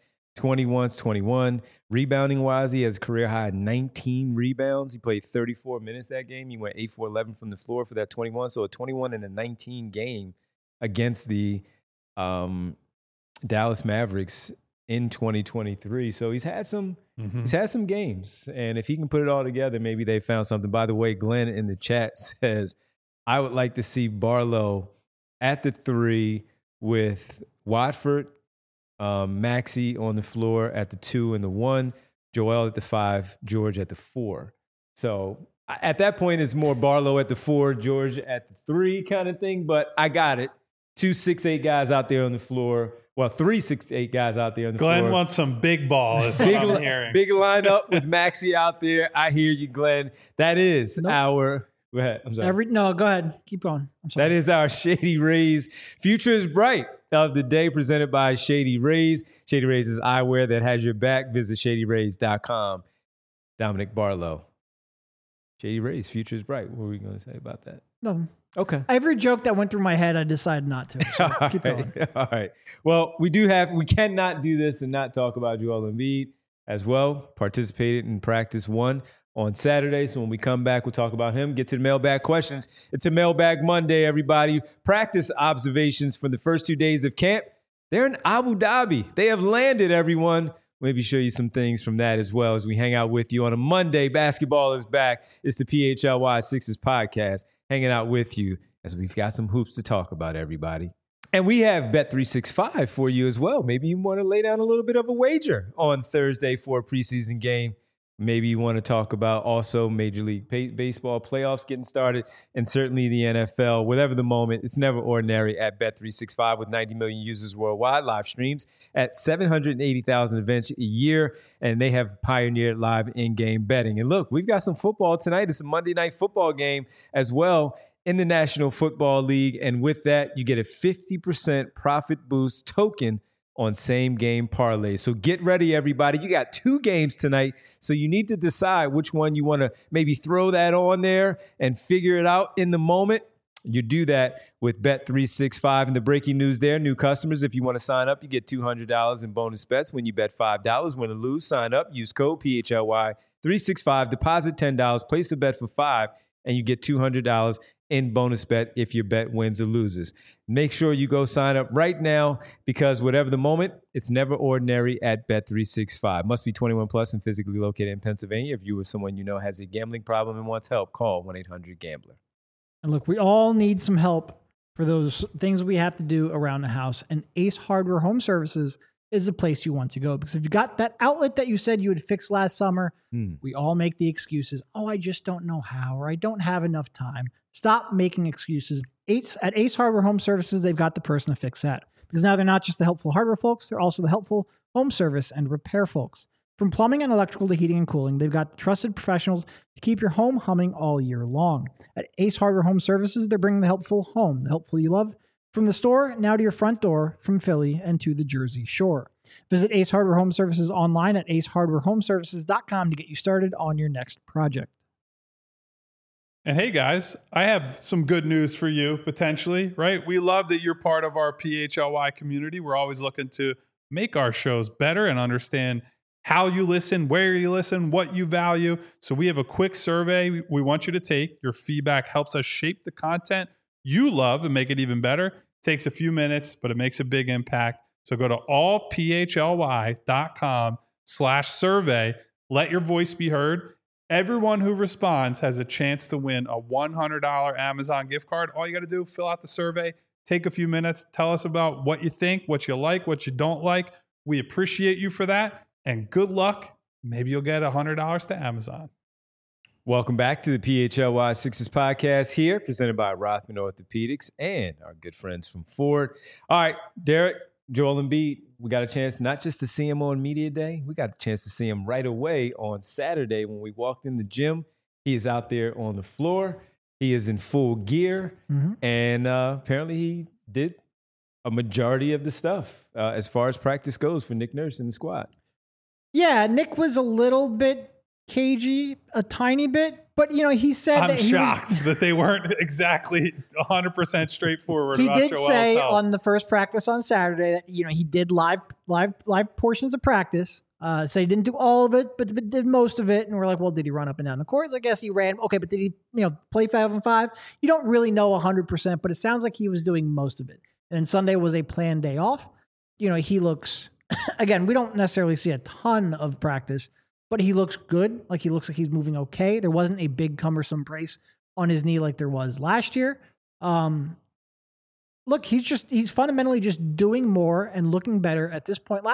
21. Rebounding wise, he has a career high 19 rebounds. He played 34 minutes that game. He went 8 for 11 from the floor for that 21. So a 21 and a 19 game against the Dallas Mavericks in 2023. So he's had some games. And if he can put it all together, maybe they found something. By the way, Glenn in the chat says, I would like to see Barlow at the 3 with Watford, Maxey on the floor at the 2 and the 1, Joel at the 5, George at the 4. So at that point, it's more Barlow at the 4, George at the 3 kind of thing. But I got it. 2 6'8" guys out there on the floor. Well, 3 6'8" guys out there on the floor. Glenn wants some big ball, is what I'm hearing. Big lineup with Maxey out there. I hear you, Glenn. That is our... Go ahead. I'm sorry. No, go ahead. Keep going. I'm sorry. That is our Shady Rays Future is Bright of the day, presented by Shady Rays. Shady Rays is eyewear that has your back. Visit shadyrays.com. Dominic Barlow. Shady Rays Future is Bright. What were we going to say about that? Nothing. Okay. Every joke that went through my head, I decided not to. So keep going. All right. Well, we cannot do this and not talk about Joel Embiid as well. Participated in practice 1 on Saturday. So when we come back, we'll talk about him, get to the mailbag questions. It's a Mailbag Monday, everybody. Practice observations from the first 2 days of camp. They're in Abu Dhabi. They have landed, everyone. Maybe show you some things from that as well as we hang out with you on a Monday. Basketball is back. It's the PHLY Sixers podcast, hanging out with you as we've got some hoops to talk about, everybody. And we have Bet365 for you as well. Maybe you want to lay down a little bit of a wager on Thursday for a preseason game. Maybe you want to talk about also Major League Baseball playoffs getting started, and certainly the NFL. Whatever the moment, it's never ordinary at Bet365 with 90 million users worldwide, live streams at 780,000 events a year, and they have pioneered live in-game betting. And look, we've got some football tonight. It's a Monday Night Football game as well in the National Football League, and with that, you get a 50% profit boost token on same game parlay. So get ready, everybody. You got 2 games tonight, so you need to decide which one you want to maybe throw that on there and figure it out in the moment. You do that with Bet365. And the breaking news there, new customers, if you want to sign up, you get $200 in bonus bets when you bet $5. Win or lose, sign up, use code PHLY365, deposit $10, place a bet for $5, and you get $200 in bonus bet if your bet wins or loses. Make sure you go sign up right now, because whatever the moment, it's never ordinary at Bet365. Must be 21 plus and physically located in Pennsylvania. If you or someone you know has a gambling problem and wants help, call 1-800-GAMBLER. And look, we all need some help for those things we have to do around the house. And Ace Hardware Home Services is the place you want to go. Because if you got that outlet that you said you would fix last summer, we all make the excuses. Oh, I just don't know how, or I don't have enough time. Stop making excuses. At Ace Hardware Home Services, they've got the person to fix that. Because now they're not just the helpful hardware folks, they're also the helpful home service and repair folks. From plumbing and electrical to heating and cooling, they've got trusted professionals to keep your home humming all year long. At Ace Hardware Home Services, they're bringing the helpful home, the helpful you love, from the store now to your front door, from Philly and to the Jersey Shore. Visit Ace Hardware Home Services online at acehardwarehomeservices.com to get you started on your next project. And hey, guys, I have some good news for you, potentially, right? We love that you're part of our PHLY community. We're always looking to make our shows better and understand how you listen, where you listen, what you value. So we have a quick survey we want you to take. Your feedback helps us shape the content you love and make it even better. It takes a few minutes, but it makes a big impact. So go to allphly.com/survey. Let your voice be heard. Everyone who responds has a chance to win a $100 Amazon gift card. All you got to do, fill out the survey, take a few minutes, tell us about what you think, what you like, what you don't like. We appreciate you for that. And good luck. Maybe you'll get $100 to Amazon. Welcome back to the PHLY Sixers podcast here, presented by Rothman Orthopedics and our good friends from Ford. All right, Derek, Joel Embiid, we got a chance not just to see him on Media Day, we got the chance to see him right away on Saturday when we walked in the gym. He is out there on the floor. He is in full gear, and apparently he did a majority of the stuff as far as practice goes for Nick Nurse and the squad. Yeah, Nick was a little bit cagey, a tiny bit, but he said I'm that shocked that they weren't exactly 100% straightforward. He about did Joel's say health. on the first practice on Saturday that he did live portions of practice. So he didn't do all of it, but did most of it. And we're like, well, did he run up and down the courts? I guess he ran. Okay, but did he play 5-on-5? You don't really know 100%, but it sounds like he was doing most of it. And Sunday was a planned day off. He looks. Again, we don't necessarily see a ton of practice, but he looks good. Like he looks like he's moving okay. There wasn't a big cumbersome brace on his knee like there was last year. Look, he's fundamentally just doing more and looking better at this point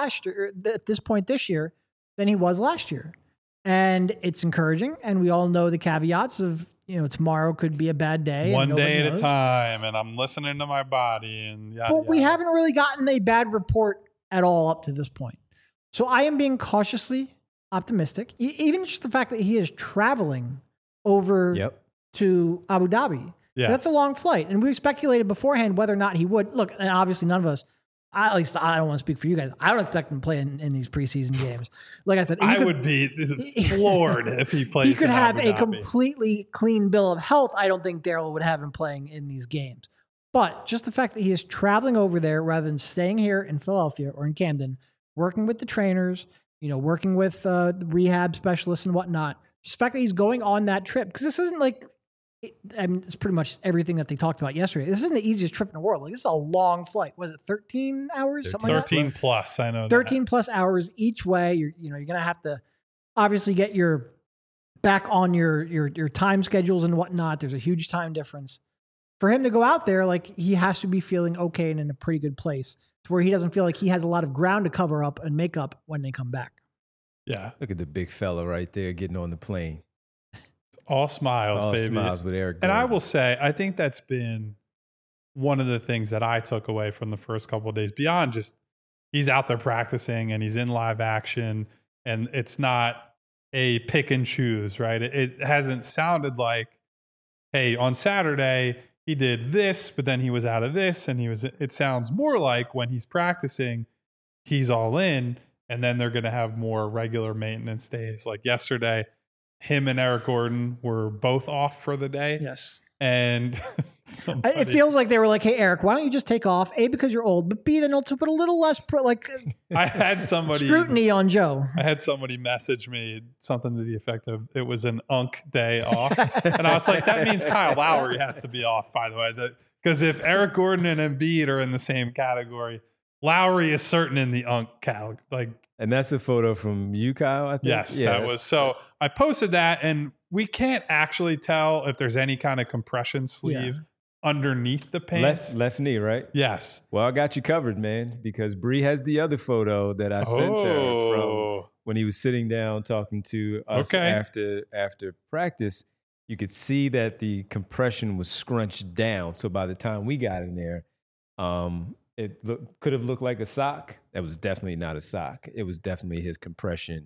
this year than he was last year. And it's encouraging. And we all know the caveats of, tomorrow could be a bad day. One day at a time. And I'm listening to my body and yada, But we haven't really gotten a bad report at all up to this point. So I am being cautiously optimistic. Even just the fact that he is traveling over to Abu Dhabi. Yeah. That's a long flight. And we speculated beforehand whether or not he would. Look, and obviously none of us, at least I don't want to speak for you guys. I don't expect him to play in these preseason games. Like I said, I would be floored if he plays. He could have Abu a Dhabi. completely clean bill of health. I don't think Daryl would have him playing in these games. But just the fact that he is traveling over there rather than staying here in Philadelphia or in Camden, working with the trainers, working with the rehab specialists and whatnot, just the fact that he's going on that trip, because this isn't like, it's pretty much everything that they talked about yesterday. This isn't the easiest trip in the world. Like, this is a long flight. Was it 13 hours? Something like that? 13 plus. I know 13 plus hours each way. You're going to have to obviously get back on your time schedules and whatnot. There's a huge time difference. For him to go out there, like, he has to be feeling okay and in a pretty good place to where he doesn't feel like he has a lot of ground to cover up and make up when they come back. Yeah. Look at the big fella right there getting on the plane. All smiles, All baby. smiles with Eric And I Gordon. will say, I think that's been one of the things that I took away from the first couple of days, beyond just he's out there practicing and he's in live action and it's not a pick and choose, right? It hasn't sounded like, hey, on Saturday he did this, but then he was out of this. And it sounds more like when he's practicing, he's all in, and then they're going to have more regular maintenance days. Like yesterday, him and Eric Gordon were both off for the day. Yes. And It feels like they were like, hey, Eric, why don't you just take off? A, because you're old, but B, then also put a little less I had somebody scrutiny on Joe. I had somebody message me something to the effect of it was an unk day off. And I was like, that means Kyle Lowry has to be off, by the way. Because if Eric Gordon and Embiid are in the same category, Lowry is certain in the unk category. And that's a photo from you, Kyle, I think? Yes, Yeah, that was. So I posted that, and we can't actually tell if there's any kind of compression sleeve underneath the pants. Left knee, right? Yes. Well, I got you covered, man, because Bree has the other photo that I sent her from when he was sitting down talking to us after practice. You could see that the compression was scrunched down. So by the time we got in there, it could have looked like a sock. That was definitely not a sock. It was definitely his compression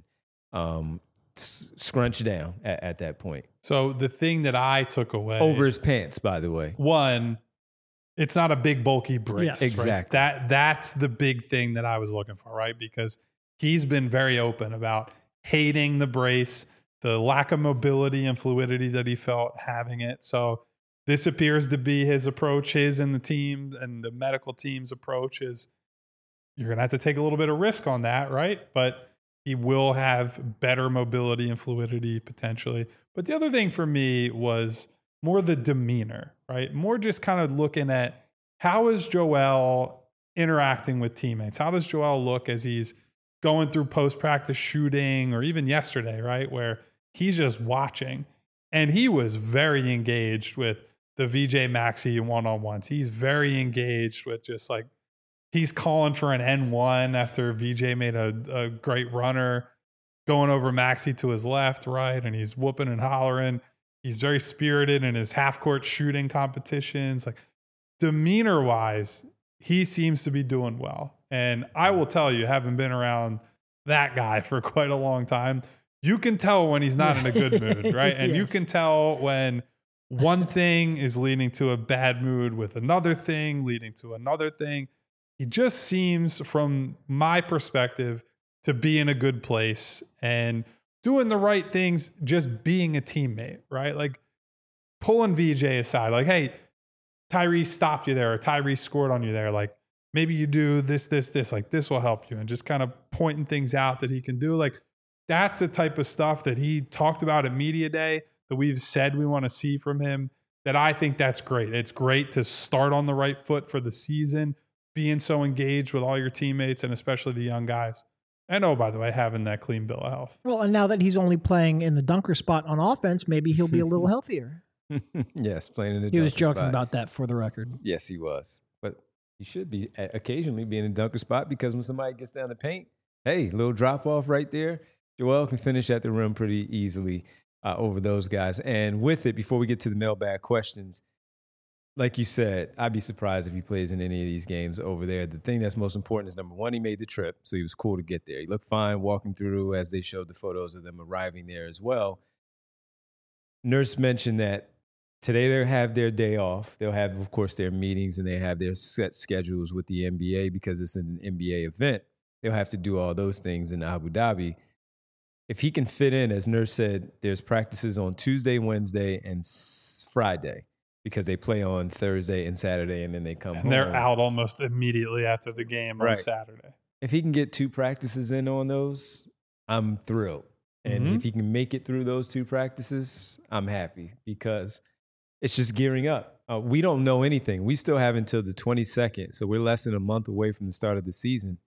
scrunched down at that point. So the thing that I took away over his pants, by the way, one, it's not a big bulky brace. Yes. Exactly. Right? That's the big thing that I was looking for, right? Because he's been very open about hating the brace, the lack of mobility and fluidity that he felt having it. So this appears to be his approach, his and the team and the medical team's approach is you're going to have to take a little bit of risk on that, right? But he will have better mobility and fluidity potentially. But the other thing for me was more the demeanor, right? More just kind of looking at how is Joel interacting with teammates? How does Joel look as he's going through post-practice shooting or even yesterday, right? Where he's just watching. And he was very engaged with the VJ Maxey one-on-ones. He's very engaged with just like, he's calling for an N1 after VJ made a great runner, going over Maxey to his left, right, and he's whooping and hollering. He's very spirited in his half-court shooting competitions. Like demeanor-wise, he seems to be doing well. And I will tell you, having been around that guy for quite a long time, you can tell when he's not in a good mood, right? And Yes. you can tell when one thing is leading to a bad mood with another thing, leading to another thing. He just seems, from my perspective, to be in a good place and doing the right things, just being a teammate, right? Like pulling VJ aside, like, hey, Tyrese stopped you there, or Tyrese scored on you there. Like maybe you do this, like this will help you, and just kind of pointing things out that he can do. Like that's the type of stuff that he talked about at Media Day that we've said we want to see from him, that I think that's great. It's great to start on the right foot for the season, being so engaged with all your teammates and especially the young guys. And oh, by the way, having that clean bill of health. Well, and now that he's only playing in the dunker spot on offense, maybe he'll be a little healthier. Yes, playing in the He was dunker joking spot. about that for the record. Yes, he was. But he should be occasionally being in a dunker spot, because when somebody gets down the paint, hey, little drop off right there. Joel can finish at the rim pretty easily over those guys. And with it, before we get to the mailbag questions, like you said, I'd be surprised if he plays in any of these games over there. The thing that's most important is, number one, he made the trip, so he was cool to get there. He looked fine walking through, as they showed the photos of them arriving there as well. Nurse mentioned that today they'll have their day off. They'll have, of course, their meetings, and they have their set schedules with the NBA because it's an NBA event. They'll have to do all those things in Abu Dhabi. If he can fit in, as Nurse said, there's practices on Tuesday, Wednesday, and Friday, because they play on Thursday and Saturday, and then they come home. And they're out almost immediately after the game on Right. Saturday. If he can get 2 practices in on those, I'm thrilled. And if he can make it through those 2 practices, I'm happy, because it's just gearing up. We don't know anything. We still have until the 22nd, so we're less than a month away from the start of the season.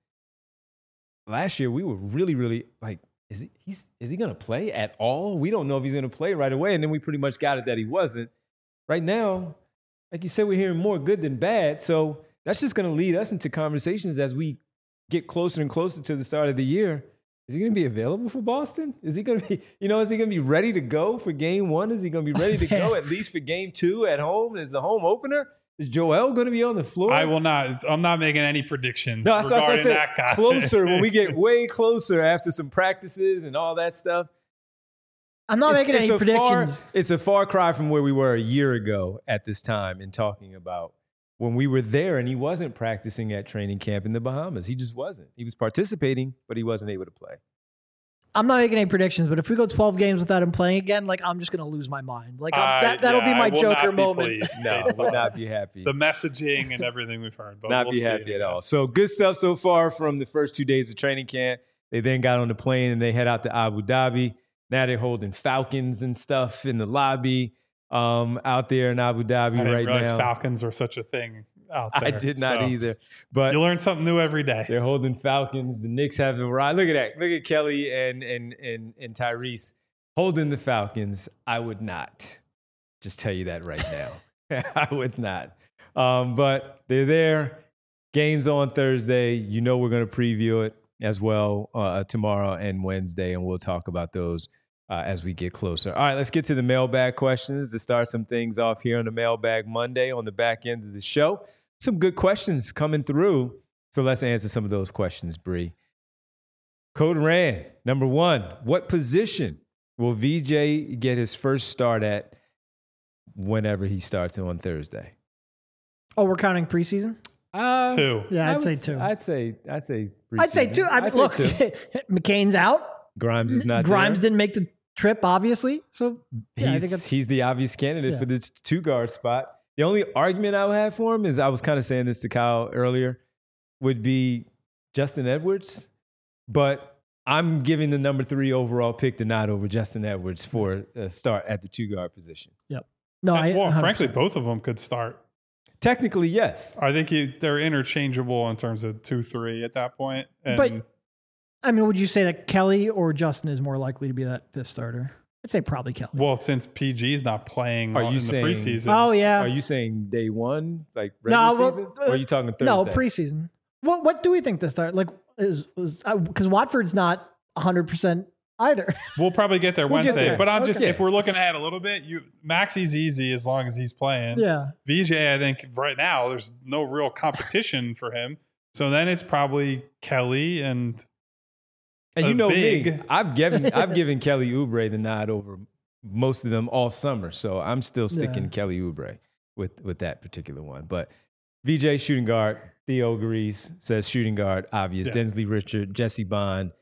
Last year, we were really, really like, is he going to play at all? We don't know if he's going to play right away, and then we pretty much got it that he wasn't. Right now, like you said, we're hearing more good than bad, so that's just going to lead us into conversations as we get closer and closer to the start of the year. Is he going to be available for Boston? Is he going to be, is he going to be ready to go for game 1? Is he going to be ready to go at least for game 2 at home? Is the home opener? Is Joel going to be on the floor? I'm not making any predictions No, that's what I regarding said. that guy. Closer, when we get way closer after some practices and all that stuff. I'm not making any predictions. It's a far cry from where we were a year ago at this time, in talking about when we were there and he wasn't practicing at training camp in the Bahamas. He just wasn't. He was participating, but he wasn't able to play. I'm not making any predictions, but if we go 12 games without him playing again, like I'm just going to lose my mind. Like that'll be my I will Joker not be moment. pleased No, based would on not be happy. the messaging and everything we've heard. But Not we'll be see, happy I at all. guess. So good stuff so far from the first 2 days of training camp. They then got on the plane and they head out to Abu Dhabi. Now they're holding Falcons and stuff in the lobby out there in Abu Dhabi I didn't right realize now. Falcons are such a thing out there. I did not So, either. But You learn something new every day. they're holding Falcons. The Knicks have a ride. Look at that. Look at Kelly and Tyrese holding the Falcons. I would not. Just tell you that right now. I would not. But they're there. Games on Thursday. You know we're going to preview it as well tomorrow and Wednesday, and we'll talk about those as we get closer. All right, let's get to the mailbag questions to start some things off here on the Mailbag Monday on the back end of the show. Some good questions coming through, so let's answer some of those questions, Bree. Code Ran, number one, what position will VJ get his first start at whenever he starts on Thursday? Oh, we're counting preseason? 2. Yeah, I'd say 2. I'd say I'd say 2. I mean, look, McCain's out. Grimes is not Grimes there. didn't make the trip, obviously. So yeah, I think He's the obvious candidate for the 2-guard spot. The only argument I would have for him is, I was kind of saying this to Kyle earlier, would be Justin Edwards. But I'm giving the number 3 overall pick to nod over Justin Edwards for a start at the 2-guard position. Yep. No, Well, 100%. frankly, both of them could start. Technically, yes. I think they're interchangeable in terms of 2-3 at that point. And But I mean, would you say that Kelly or Justin is more likely to be that 5th starter? I'd say probably Kelly. well, since PG's not playing Are you in saying- the preseason, Oh yeah. Are you saying day one, like regular season? Or are you talking Thursday? No, preseason. What do we think to start? Like, is because Watford's not 100% either. we'll probably get there We'll get Wednesday. there. But I'm just, Okay. if we're looking ahead a little bit, Maxi's easy as long as he's playing. Yeah. VJ, I think right now there's no real competition for him. So then it's probably Kelly and you know me, big. I've given Kelly Oubre the nod over most of them all summer. So I'm still sticking Yeah. Kelly Oubre with that particular one. But VJ shooting guard, Theo agrees, says shooting guard, obvious. Yeah. Densley Richard, Jesse Bond,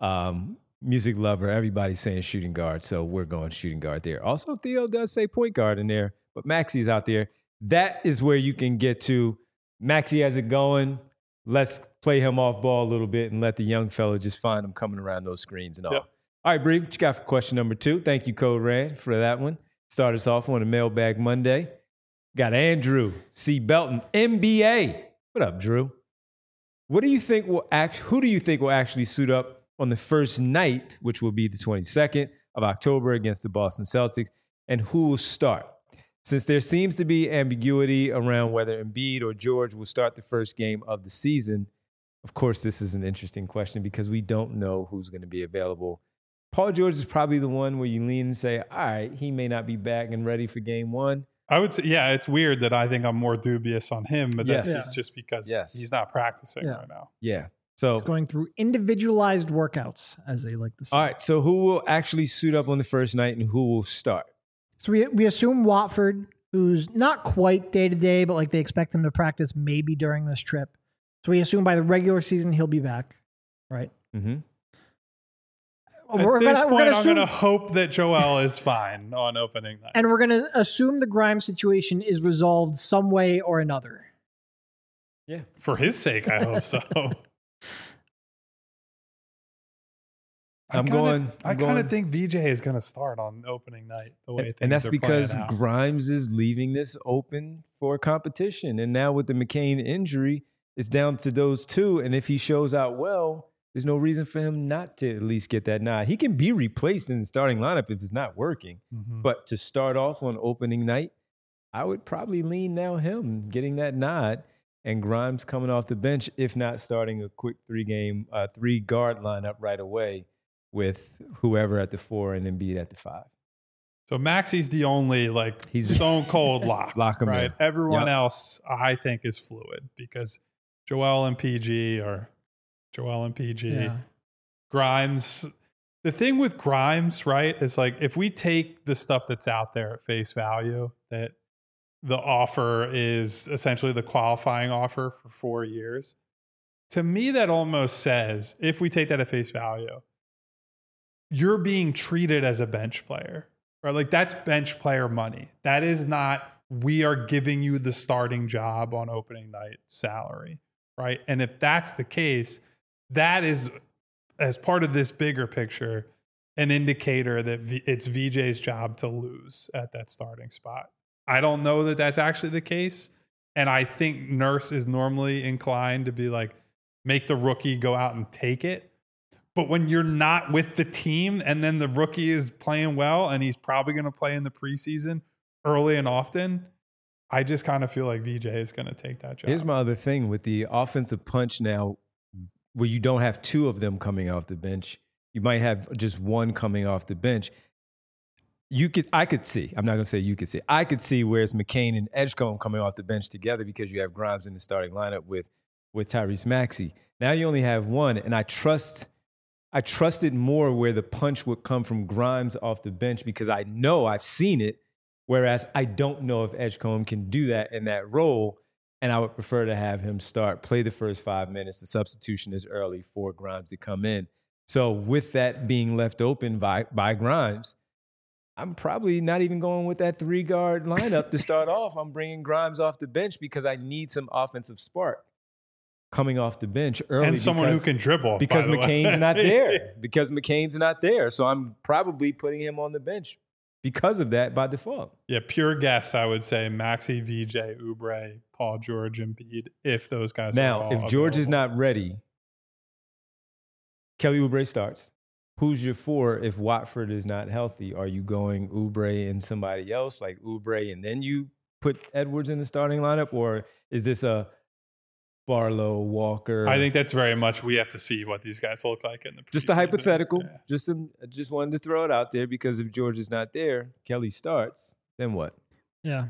music lover, everybody's saying shooting guard. So we're going shooting guard there. Also, Theo does say point guard in there, but Maxi's out there. That is where you can get to. Maxi has it going. Let's play him off ball a little bit and let the young fella just find him coming around those screens and all. Yep. All right, Bree, what you got for question number 2? Thank you, Code Rand, for that one. Start us off on a Mailbag Monday. Got Andrew C. Belton, NBA. What up, Drew? Who do you think will actually suit up on the first night, which will be the 22nd of October against the Boston Celtics, and who will start? Since there seems to be ambiguity around whether Embiid or George will start the first game of the season, of course, this is an interesting question because we don't know who's going to be available. Paul George is probably the one where you lean and say, all right, he may not be back and ready for game 1. I would say, yeah, it's weird that I think I'm more dubious on him, but that's Yes. just because Yes. he's not practicing Yeah. right now. Yeah. So, It's going through individualized workouts, as they like to say. all right. So who will actually suit up on the first night and who will start? So we assume Watford, who's not quite day to day, but like they expect him to practice maybe during this trip. So we assume by the regular season he'll be back, right? Mm-hmm. At this point, I'm assume, going to hope that Joel is fine on opening night. and we're gonna assume the Grimes situation is resolved some way or another. Yeah. For his sake, I hope so. I'm going- I kind of think VJ is going to start on opening night the way things And that's are because playing out. Grimes is leaving this open for competition. And now with the McCain injury, it's down to those two. And if he shows out well, there's no reason for him not to at least get that nod. He can be replaced in the starting lineup if it's not working. Mhm. But to start off on opening night, I would probably lean now him getting that nod and Grimes coming off the bench, if not starting a quick 3-guard lineup right away with whoever at the 4 and Embiid at the 5. So Maxi's the only He's- stone cold lock. Lock him right? in. Everyone Yep. else, I think, is fluid because Joel and PG are Joel and PG. Yeah. Grimes. The thing with Grimes, right, is like if we take the stuff that's out there at face value, that the offer is essentially the qualifying offer for 4 years. To me, that almost says, if we take that at face value, you're being treated as a bench player, right? Like that's bench player money. That is not, we are giving you the starting job on opening night salary, right? And if that's the case, that is, as part of this bigger picture, an indicator that it's VJ's job to lose at that starting spot. I don't know that that's actually the case. And I think Nurse is normally inclined to be like, make the rookie go out and take it. But when you're not with the team and then the rookie is playing well and he's probably going to play in the preseason early and often, I just kind of feel like VJ is going to take that job. Here's my other thing with the offensive punch now, where you don't have two of them coming off the bench. You might have just one coming off the bench. I could see. I'm not going to say you could see. I could see where it's McCain and Edgecombe coming off the bench together because you have Grimes in the starting lineup with Tyrese Maxey. Now you only have one, and I trusted more where the punch would come from Grimes off the bench because I know I've seen it, whereas I don't know if Edgecombe can do that in that role, and I would prefer to have him play the first 5 minutes. The substitution is early for Grimes to come in. So with that being left open by Grimes, I'm probably not even going with that 3-guard lineup to start off. I'm bringing Grimes off the bench because I need some offensive spark coming off the bench early. And someone who can dribble. Because McCain's not there. Because McCain's not there. So I'm probably putting him on the bench because of that by default. Yeah, pure guess, I would say Maxey, VJ, Oubre, Paul George, Embiid, if those guys are all Now, if George available. is not ready, Kelly Oubre starts. Who's your 4 if Watford is not healthy? Are you going Oubre and somebody else, like Oubre, and then you put Edwards in the starting lineup? Or is this a Barlow, Walker? I think that's very much, we have to see what these guys look like in the Just a preseason. hypothetical. Yeah. Just wanted to throw it out there because if George is not there, Kelly starts, then what? Yeah.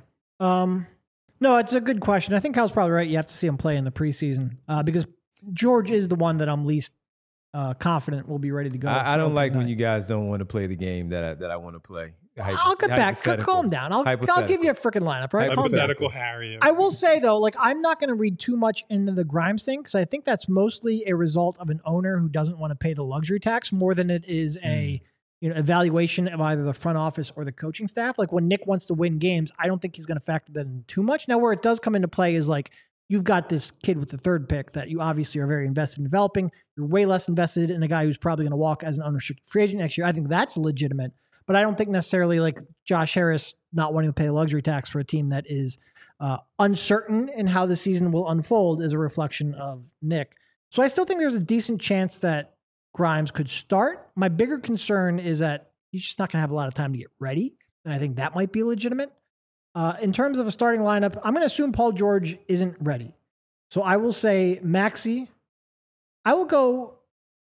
No, it's a good question. I think Kyle's probably right. You have to see him play in the preseason because George is the one that I'm least confident will be ready to go. I don't like when you guys don't want to play the game that I want to play. I'll get back. Calm down. I'll give you a freaking lineup, right? Hypothetical Harry. I will say, though, like, I'm not going to read too much into the Grimes thing because I think that's mostly a result of an owner who doesn't want to pay the luxury tax more than it is a evaluation of either the front office or the coaching staff. Like, when Nick wants to win games, I don't think he's going to factor that in too much. Now, where it does come into play is, like, you've got this kid with the 3rd pick that you obviously are very invested in developing. You're way less invested in a guy who's probably going to walk as an unrestricted free agent next year. I think that's legitimate. But I don't think necessarily like Josh Harris not wanting to pay a luxury tax for a team that is uncertain in how the season will unfold is a reflection of Nick. So I still think there's a decent chance that Grimes could start. My bigger concern is that he's just not going to have a lot of time to get ready. And I think that might be legitimate. In terms of a starting lineup, I'm going to assume Paul George isn't ready. So I will say Maxey. I will go.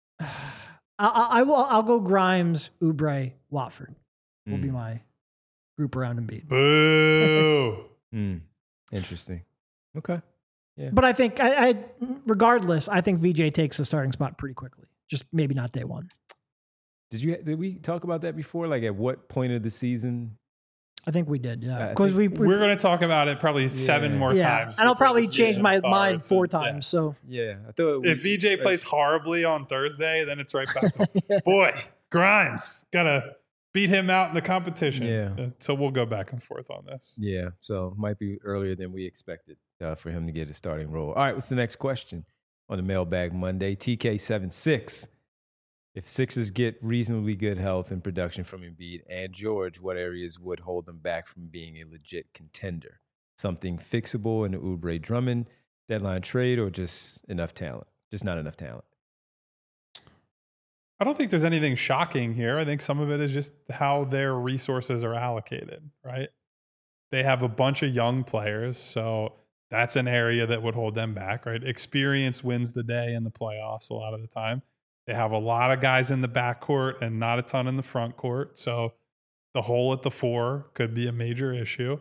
I'll go Grimes, Oubre, Watford will be my group around Embiid. Boo. Interesting. Okay. Yeah. But I think regardless, I think VJ takes a starting spot pretty quickly. Just maybe not day one. Did we talk about that before? Like at what point of the season? I think we did, yeah. Because we're going to talk about it probably 7 more times. And I'll probably change my season mind starts. 4 times. So yeah, I thought if VJ plays horribly on Thursday, then it's right back to boy, Grimes gotta beat him out in the competition. Yeah. So we'll go back and forth on this. Yeah, so might be earlier than we expected for him to get a starting role. All right, what's the next question on the Mailbag Monday? TK76. If Sixers get reasonably good health and production from Embiid and George, what areas would hold them back from being a legit contender? Something fixable in the Oubre Drummond deadline trade or just enough talent? Just not enough talent. I don't think there's anything shocking here. I think some of it is just how their resources are allocated, right? They have a bunch of young players, so that's an area that would hold them back, right? Experience wins the day in the playoffs a lot of the time. They have a lot of guys in the backcourt and not a ton in the front court. So the hole at the 4 could be a major issue.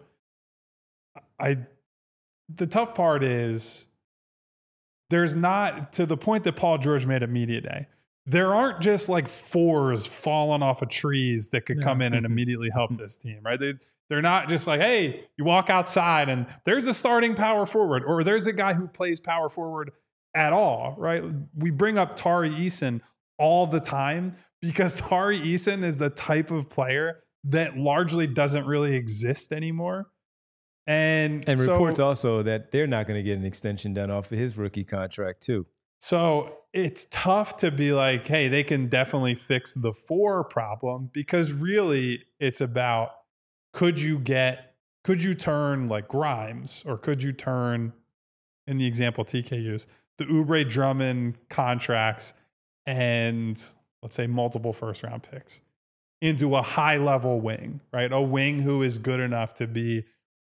The tough part is there's not, to the point that Paul George made at media day, there aren't just like 4s falling off of trees that could come in and immediately help this team, right? They're not just like, hey, you walk outside and there's a starting power forward or there's a guy who plays power forward at all, right? We bring up Tari Eason all the time because Tari Eason is the type of player that largely doesn't really exist anymore. And so, reports also that they're not going to get an extension done off of his rookie contract too. So it's tough to be like, hey, they can definitely fix the 4 problem because really it's about could you turn like Grimes or could you turn, in the example TK used, the Oubre Drummond contracts and let's say multiple first-round picks into a high-level wing, right? A wing who is good enough to be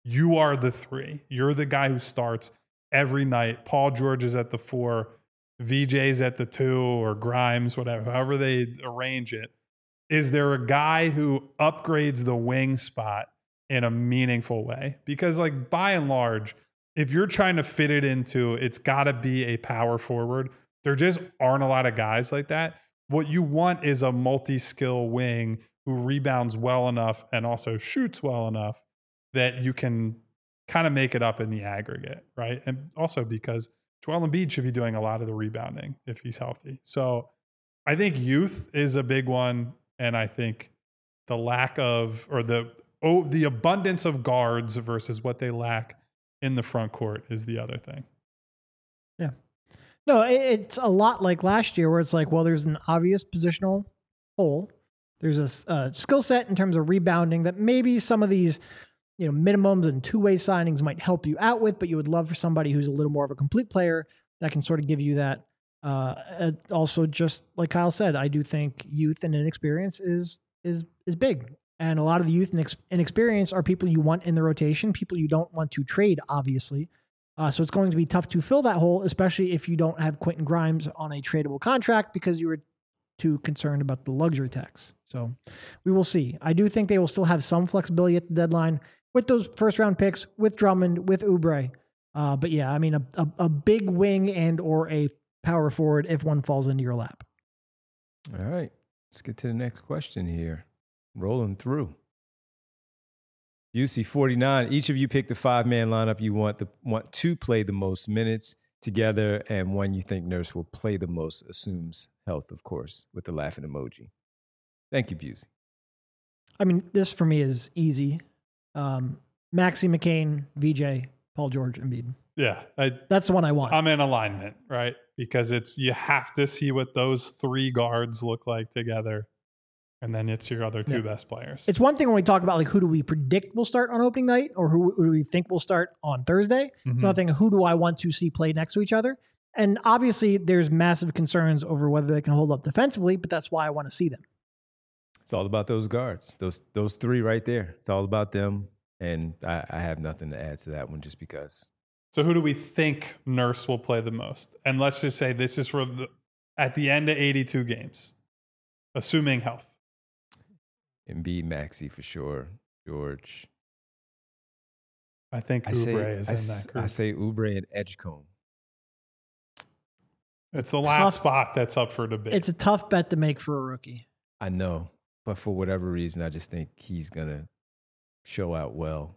you are the 3. You're the guy who starts every night. Paul George is at the 4, VJ's at the 2, or Grimes, whatever, however they arrange it. Is there a guy who upgrades the wing spot in a meaningful way? Because like by and large, if you're trying to fit it into, it's got to be a power forward. There just aren't a lot of guys like that. What you want is a multi-skill wing who rebounds well enough and also shoots well enough that you can kind of make it up in the aggregate, right? And also because Joel Embiid should be doing a lot of the rebounding if he's healthy. So I think youth is a big one. And I think the lack of, or the abundance of guards versus what they lack in the front court is the other thing. Yeah. No, it's a lot like last year where it's like, well, there's an obvious positional hole. There's a skill set in terms of rebounding that maybe some of these, minimums and two-way signings might help you out with, but you would love for somebody who's a little more of a complete player that can sort of give you that. Also, just like Kyle said, I do think youth and inexperience is big. And a lot of the youth and inexperience are people you want in the rotation, people you don't want to trade, obviously. So it's going to be tough to fill that hole, especially if you don't have Quentin Grimes on a tradable contract because you were too concerned about the luxury tax. So we will see. I do think they will still have some flexibility at the deadline with those first round picks, with Drummond, with Oubre. But yeah, I mean, a big wing and or a power forward if one falls into your lap. All right. Let's get to the next question here. Rolling through. UC49, each of you pick the 5-man lineup you want to play the most minutes together, and one you think Nurse will play the most, assumes health, of course, with the laughing emoji. Thank you, Busey. I mean, this for me is easy. Maxey, McCain, VJ, Paul George, Embiid. Yeah. That's the one I want. I'm in alignment, right? Because you have to see what those 3 guards look like together. And then it's your other 2 best players. It's one thing when we talk about like who do we predict will start on opening night or who do we think will start on Thursday. Mm-hmm. It's another thing, who do I want to see play next to each other? And obviously there's massive concerns over whether they can hold up defensively, but that's why I want to see them. It's all about those guards, those 3 right there. It's all about them. And I have nothing to add to that one just because. So who do we think Nurse will play the most? And let's just say this is at the end of 82 games, assuming health. Embiid, Maxey for sure. George. I think Oubre is in that group. I say Oubre and Edgecombe. It's the last spot that's up for debate. It's a tough bet to make for a rookie. I know, but for whatever reason, I just think he's going to show out well.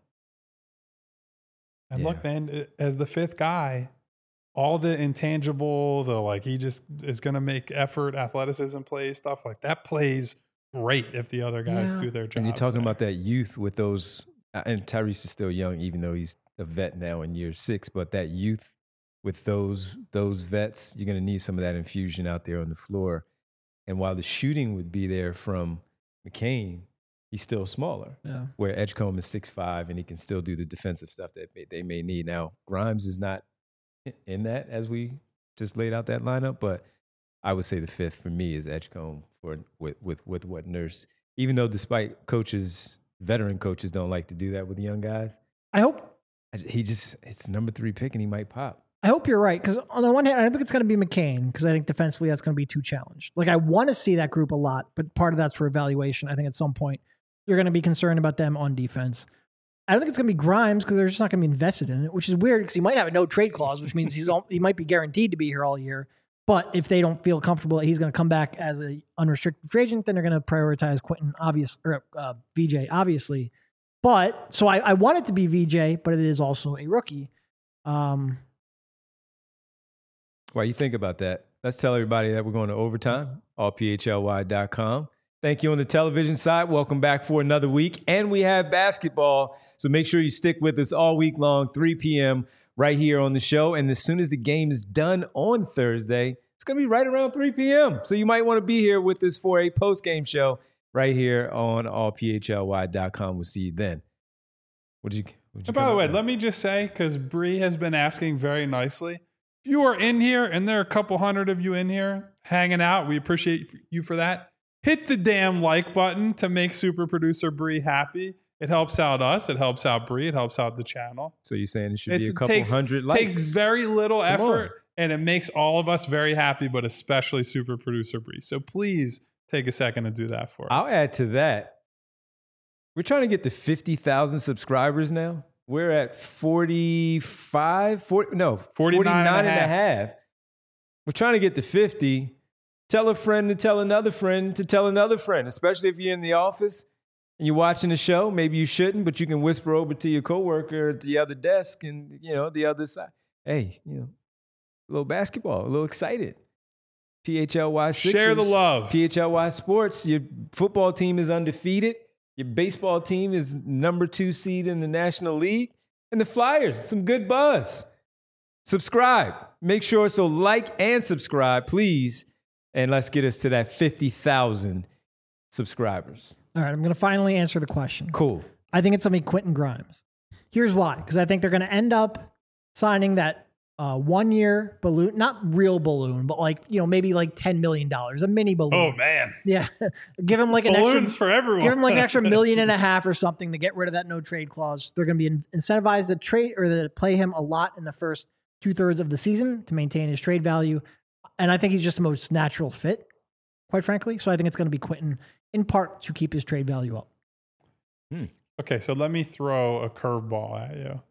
And look, man, as the 5th guy, all the intangible, he just is going to make effort, athleticism plays, stuff like that plays great if the other guys do their job. And you're talking about that youth with those, and Tyrese is still young, even though he's a vet now in year 6, but that youth with those vets, you're going to need some of that infusion out there on the floor. And while the shooting would be there from McCain, he's still smaller. Yeah. Where Edgecombe is 6'5", and he can still do the defensive stuff that they may need. Now, Grimes is not in that as we just laid out that lineup, but I would say the 5th for me is Edgecombe with what Nurse, even though despite veteran coaches don't like to do that with the young guys. I hope it's number 3 pick and he might pop. I hope you're right, because on the one hand, I don't think it's going to be McCain, because I think defensively that's going to be too challenged. Like, I want to see that group a lot, but part of that's for evaluation. I think at some point you're going to be concerned about them on defense. I don't think it's going to be Grimes, because they're just not going to be invested in it, which is weird, because he might have a no trade clause, which means he might be guaranteed to be here all year. But if they don't feel comfortable that he's going to come back as an unrestricted free agent, then they're going to prioritize VJ, obviously. But so I want it to be VJ, but it is also a rookie. While you think about that, let's tell everybody that we're going to overtime, allphly.com. Thank you on the television side. Welcome back for another week. And we have basketball. So make sure you stick with us all week long, 3 p.m. right here on the show. And as soon as the game is done on Thursday, it's going to be right around 3 p.m. So you might want to be here with us for a post-game show right here on allphly.com. We'll see you then. And by the way, let me just say, because Bree has been asking very nicely, if you are in here, and there are a couple hundred of you in here hanging out, we appreciate you for that. Hit the damn like button to make super producer Bree happy. It helps out us. It helps out Bree. It helps out the channel. So you're saying it should be a couple takes, hundred likes? Takes very little Come effort, and it makes all of us very happy, but especially super producer Bree. So please take a second to do that for us. I'll add to that. We're trying to get to 50,000 subscribers now. We're at 49 and a half. We're trying to get to 50. Tell a friend to tell another friend to tell another friend, especially if you're in the office and you're watching the show. Maybe you shouldn't, but you can whisper over to your coworker at the other desk and, the other side. Hey, a little basketball, a little excited. PHLY Sixers. Share the love. PHLY Sports. Your football team is undefeated. Your baseball team is number 2 seed in the National League. And the Flyers, some good buzz. Subscribe. Make sure so like and subscribe, please. And let's get us to that 50,000 subscribers. All right, I'm going to finally answer the question. Cool. I think it's going to be Quentin Grimes. Here's why. Because I think they're going to end up signing that 1-year balloon, not real balloon, but maybe like $10 million, a mini balloon. Oh, man. Yeah. Give him like balloons for everyone. Give him like an extra $1.5 million or something to get rid of that no trade clause. They're going to be incentivized to trade or to play him a lot in the first 2/3 of the season to maintain his trade value. And I think he's just the most natural fit, quite frankly. So I think it's going to be Quentin in part to keep his trade value up. Okay, so let me throw a curveball at you.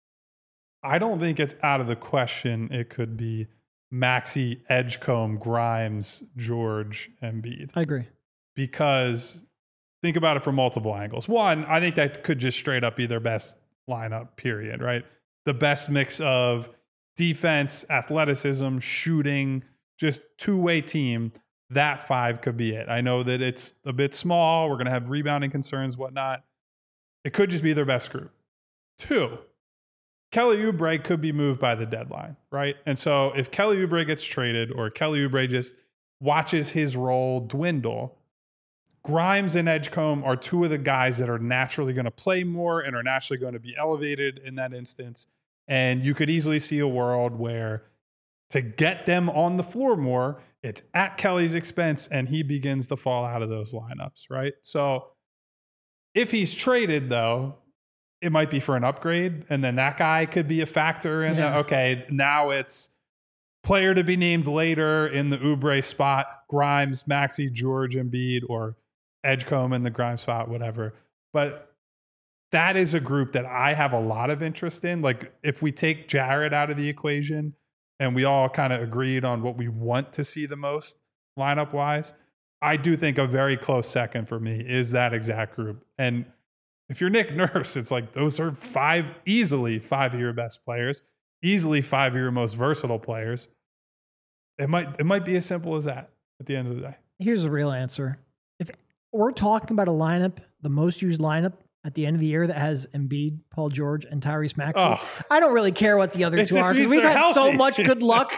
I don't think it's out of the question it could be Maxey, Edgecombe, Grimes, George, Embiid. I agree. Because think about it from multiple angles. One, I think that could just straight up be their best lineup, period, right? The best mix of defense, athleticism, shooting, just two-way team. That 5 could be it. I know that it's a bit small. We're going to have rebounding concerns, whatnot. It could just be their best group. 2, Kelly Oubre could be moved by the deadline, right? And so if Kelly Oubre gets traded or Kelly Oubre just watches his role dwindle, Grimes and Edgecombe are 2 of the guys that are naturally going to play more and are naturally going to be elevated in that instance. And you could easily see a world where to get them on the floor more, it's at Kelly's expense and he begins to fall out of those lineups, right? So if he's traded, though, it might be for an upgrade, and then that guy could be a factor in that. Okay, now it's player to be named later in the Oubre spot, Grimes, Maxey, George, Embiid, or Edgecombe in the Grimes spot, whatever. But that is a group that I have a lot of interest in. Like if we take Jared out of the equation and we all kind of agreed on what we want to see the most lineup-wise, I do think a very close second for me is that exact group. And if you're Nick Nurse, it's like those are easily 5 of your best players, easily 5 of your most versatile players. It might be as simple as that at the end of the day. Here's the real answer. If we're talking about a lineup, the most used lineup at the end of the year that has Embiid, Paul George, and Tyrese Maxey, I don't really care what the other 2 are because we've had so much good luck.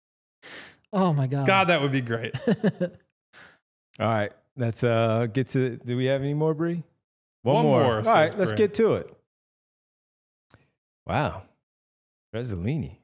Oh my God. God, that would be great. All right. Let's get to, do we have any more, Bree? One more. All right, let's get to it. Wow. Trizzolini.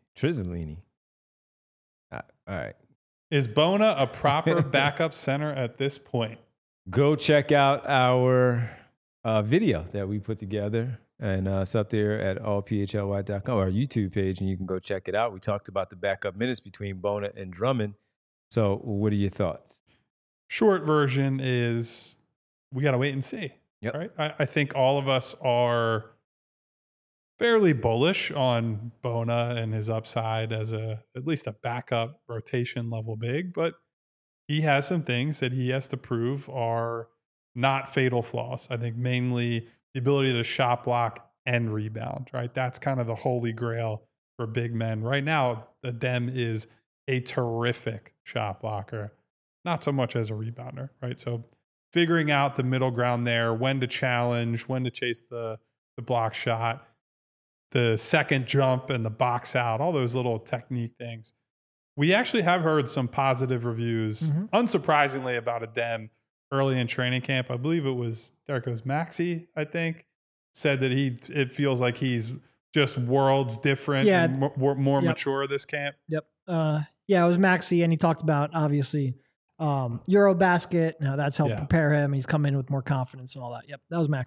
All right. Is Bona a proper backup center at this point? Go check out our video that we put together. And it's up there at allphly.com, our YouTube page, and you can go check it out. We talked about the backup minutes between Bona and Drummond. So what are your thoughts? Short version is we got to wait and see. Yep. Right? I think all of us are fairly bullish on Bona and his upside as at least a backup rotation level big, but he has some things that he has to prove are not fatal flaws. I think mainly the ability to shot block and rebound, right? That's kind of the holy grail for big men. Right now, Adem is a terrific shot blocker, not so much as a rebounder, right? So figuring out the middle ground there, when to challenge, when to chase the block shot, the second jump and the box out, all those little technique things. We actually have heard some positive reviews, unsurprisingly, about Adem early in training camp. I believe it was, there it goes, Maxey, I think, said that it feels like he's just worlds different and more mature this camp. Yep. It was Maxey, and he talked about, obviously, Eurobasket. Now that's helped prepare him. He's come in with more confidence and all that. Yep, that was Maxey.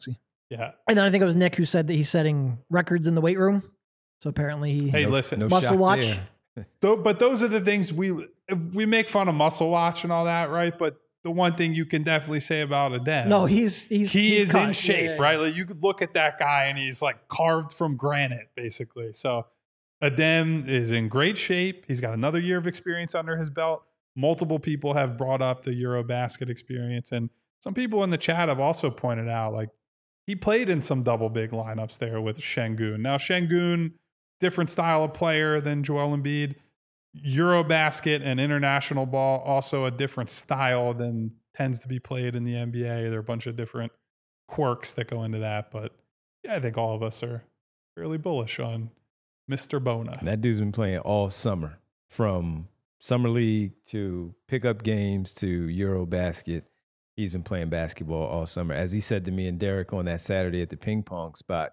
Yeah. And then I think it was Nick who said that he's setting records in the weight room. So apparently he Hey, listen. no muscle shock watch. there. But those are the things we make fun of muscle watch and all that, right? But the one thing you can definitely say about Adem, No, he is in cut. shape, Yeah. right? Like you could look at that guy and he's like carved from granite, basically. So Adem is in great shape. He's got another year of experience under his belt. Multiple people have brought up the Eurobasket experience, and some people in the chat have also pointed out like he played in some double big lineups there with Şengün. Now Şengün, different style of player than Joel Embiid. Eurobasket and international ball, also a different style than tends to be played in the NBA. There are a bunch of different quirks that go into that. But yeah, I think all of us are fairly bullish on Mr. Bona. That dude's been playing all summer, from summer league to pickup games to Eurobasket. He's been playing basketball all summer. As he said to me and Derek on that Saturday at the ping pong spot,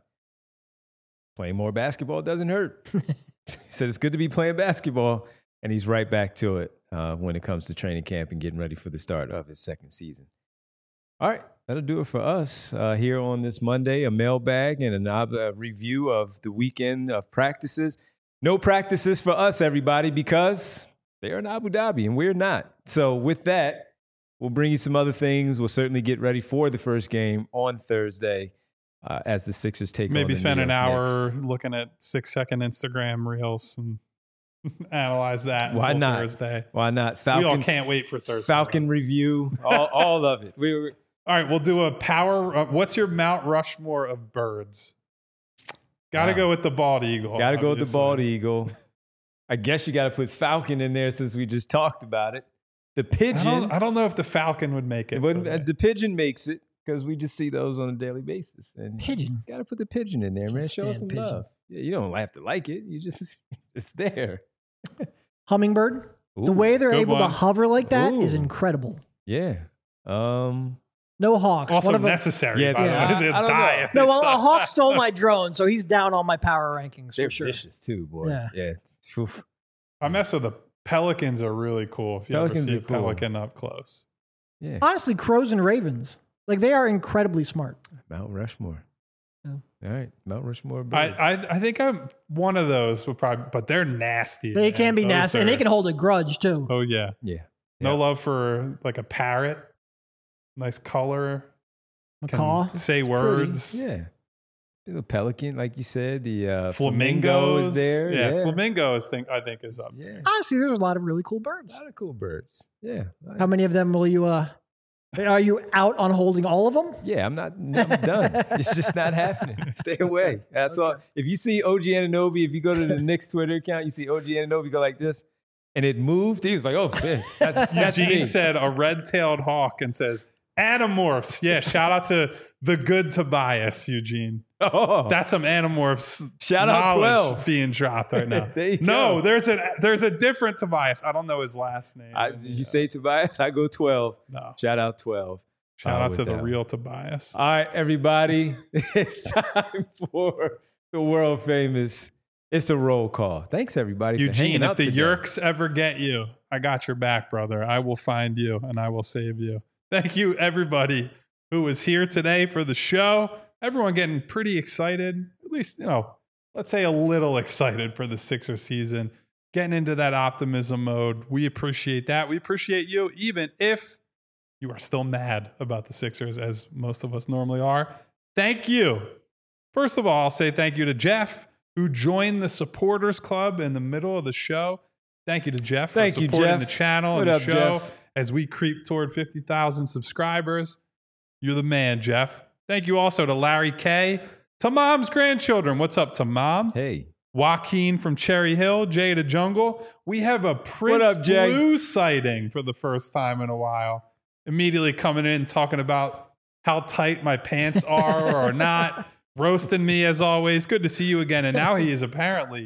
playing more basketball doesn't hurt. He said it's good to be playing basketball, and he's right back to it when it comes to training camp and getting ready for the start of his second season. All right, that'll do it for us here on this Monday, a mailbag and a review of the weekend of practices. No practices for us, everybody, because they're in Abu Dhabi and we're not. So with that, we'll bring you some other things. We'll certainly get ready for the first game on Thursday as the Sixers take on the Maybe spend New an York hour Knicks. looking at 6-second Instagram reels and analyze that. Why until not? Thursday. Why not? We all Falcon, can't wait for Thursday. Falcon review, all of it. All right, we'll do a power. What's your Mount Rushmore of birds? Got to Wow. go with the bald eagle. Got to go with the obviously. bald eagle. I guess you got to put Falcon in there since we just talked about it. The pigeon. I don't know if the Falcon would make it. It wouldn't- for me. the pigeon makes it because we just see those on a daily basis. And Pigeon. got to put the pigeon in there, man. Can't Show us stand some pigeons. love. Yeah, you don't have to like it. You just, it's there. Hummingbird. The Ooh, way they're good able to one. hover like that is Ooh. incredible. Yeah. No hawks. Also One of them- necessary. Yeah, by the yeah, way. I They'll don't die know. if No, they well, a stop. hawk stole my drone, so he's down on my power rankings they're for sure. vicious too, boy. Yeah. Yeah. Oof. I mess with the pelicans. Are really cool. If you Pelicans ever see are a cool. pelican up close. Yeah. Honestly, crows and ravens, like they are incredibly smart. Mount Rushmore. Yeah. All right. Mount Rushmore birds. I think I'm one of those. Would probably, but they're nasty. They man. can be Those nasty, and are- they can hold a grudge too. Oh yeah. yeah. No Yeah. love for like a parrot. Nice color. Can Macaw. say It's words. pretty. Yeah. The pelican, like you said, the flamingo Flamingos is there. Yeah, flamingos. I think is up. Yeah. Honestly, there's a lot of really cool birds. A lot of cool birds. Yeah. How many of them will you? Are you out on holding all of them? Yeah, I'm done. It's just not happening. Stay away. That's all. If you see OG Anunoby, if you go to the Knicks Twitter account, you see OG Anunoby go like this, and it moved. He was like, "Oh, man, that's Eugene me." said a red-tailed hawk and says Animorphs. Yeah, shout out to the good Tobias, Eugene. Oh, That's some Animorphs Shout out knowledge 12. being dropped right now. There you No, go. there's a different Tobias. I don't know his last name. You say Tobias, I go 12. No. Shout out 12. Shout out with to the that one. real Tobias. All right, everybody, it's time for the world famous. It's a roll call. Thanks, everybody, for Eugene, hanging if out the today. Yerks ever get you, I got your back, brother. I will find you and I will save you. Thank you, everybody who was here today for the show. Everyone getting pretty excited, at least, let's say a little excited for the Sixers season, getting into that optimism mode. We appreciate that. We appreciate you, even if you are still mad about the Sixers, as most of us normally are. Thank you. First of all, I'll say thank you to Jeff, who joined the supporters club in the middle of the show. Thank you to Jeff for Thank you, supporting Jeff. the channel What and the up, show Jeff? as we creep toward 50,000 subscribers. You're the man, Jeff. Thank you also to Larry K, to Mom's grandchildren. What's up to Mom? Hey, Joaquin from Cherry Hill, Jay to Jungle. We have a Prince up, Jay? Blue sighting for the first time in a while. Immediately coming in talking about how tight my pants are or are not, roasting me as always. Good to see you again. And now he is apparently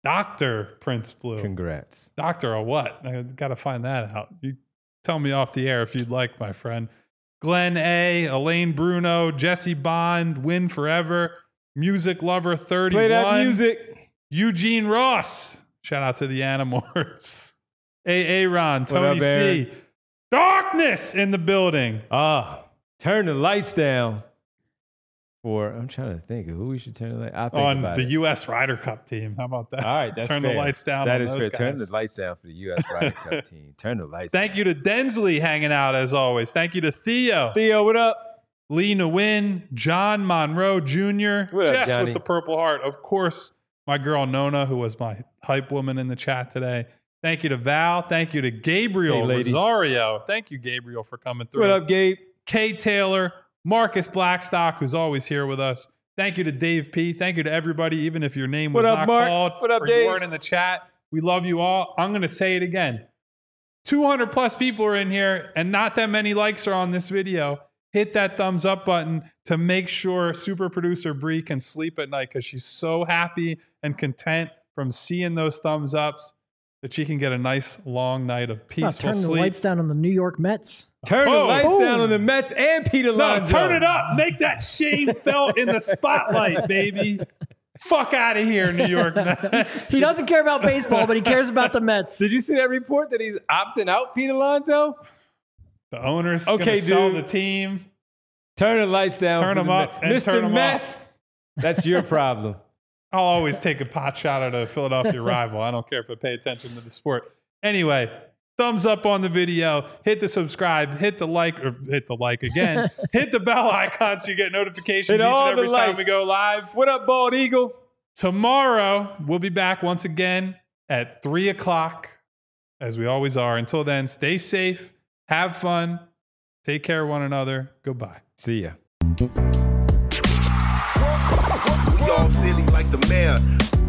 Dr. Prince Blue. congrats. Doctor or what? I got to find that out. You tell me off the air if you'd like, my friend. Glenn A, Elaine Bruno, Jesse Bond, Win Forever, Music Lover 31. Play that music. Eugene Ross. Shout out to the Animorphs. A. Ron, What Tony up, Aaron? C. Darkness in the building. Turn the lights down. I'm trying to think of who we should turn the light. I'll think On about the it. U.S. Ryder Cup team. How about that? All right, that's Turn fair. the lights down That on is those fair. guys. Turn the lights down for the U.S. Ryder Cup team. Turn the lights Thank down. you to Densley hanging out as always. Thank you to Theo. Theo, what up? Lee Nguyen, John Monroe Jr., What up, Jess Johnny? with the Purple Heart. Of course, my girl Nona, who was my hype woman in the chat today. Thank you to Val. Thank you to Gabriel Hey, ladies. Rosario. Thank you, Gabriel, for coming through. What up, Gabe? Kay Taylor, Marcus Blackstock, who's always here with us. Thank you to Dave P. Thank you to everybody, even if your name was What up, not Mark? called What up, or Dave? you weren't in the chat. We love you all. I'm going to say it again. 200 plus people are in here and not that many likes are on this video. Hit that thumbs up button to make sure super producer Bree can sleep at night because she's so happy and content from seeing those thumbs ups that she can get a nice long night of peaceful Turn the sleep. lights down on the New York Mets. Turn the Oh, lights boom. down on the Mets and Peter No, Lonzo. turn it up. Make that shame felt in the spotlight, baby. Fuck out of here, New York Mets. He doesn't care about baseball, but he cares about the Mets. Did you see that report that he's opting out, Peter Lonzo? The owner's Okay, going to sell dude. the team. Turn the lights down. Turn for them the up Mets. and turn Mr. them Meth, off. that's your problem. I'll always take a pot shot at a Philadelphia rival. I don't care if I pay attention to the sport. Anyway, thumbs up on the video. Hit the subscribe. Hit the like again. Hit the bell icon so you get notifications Hit each all and the every time we likes. go live. What up, Bald Eagle? Tomorrow, we'll be back once again at 3 o'clock, as we always are. Until then, stay safe, have fun, take care of one another. Goodbye. See ya. We all silly like the mayor.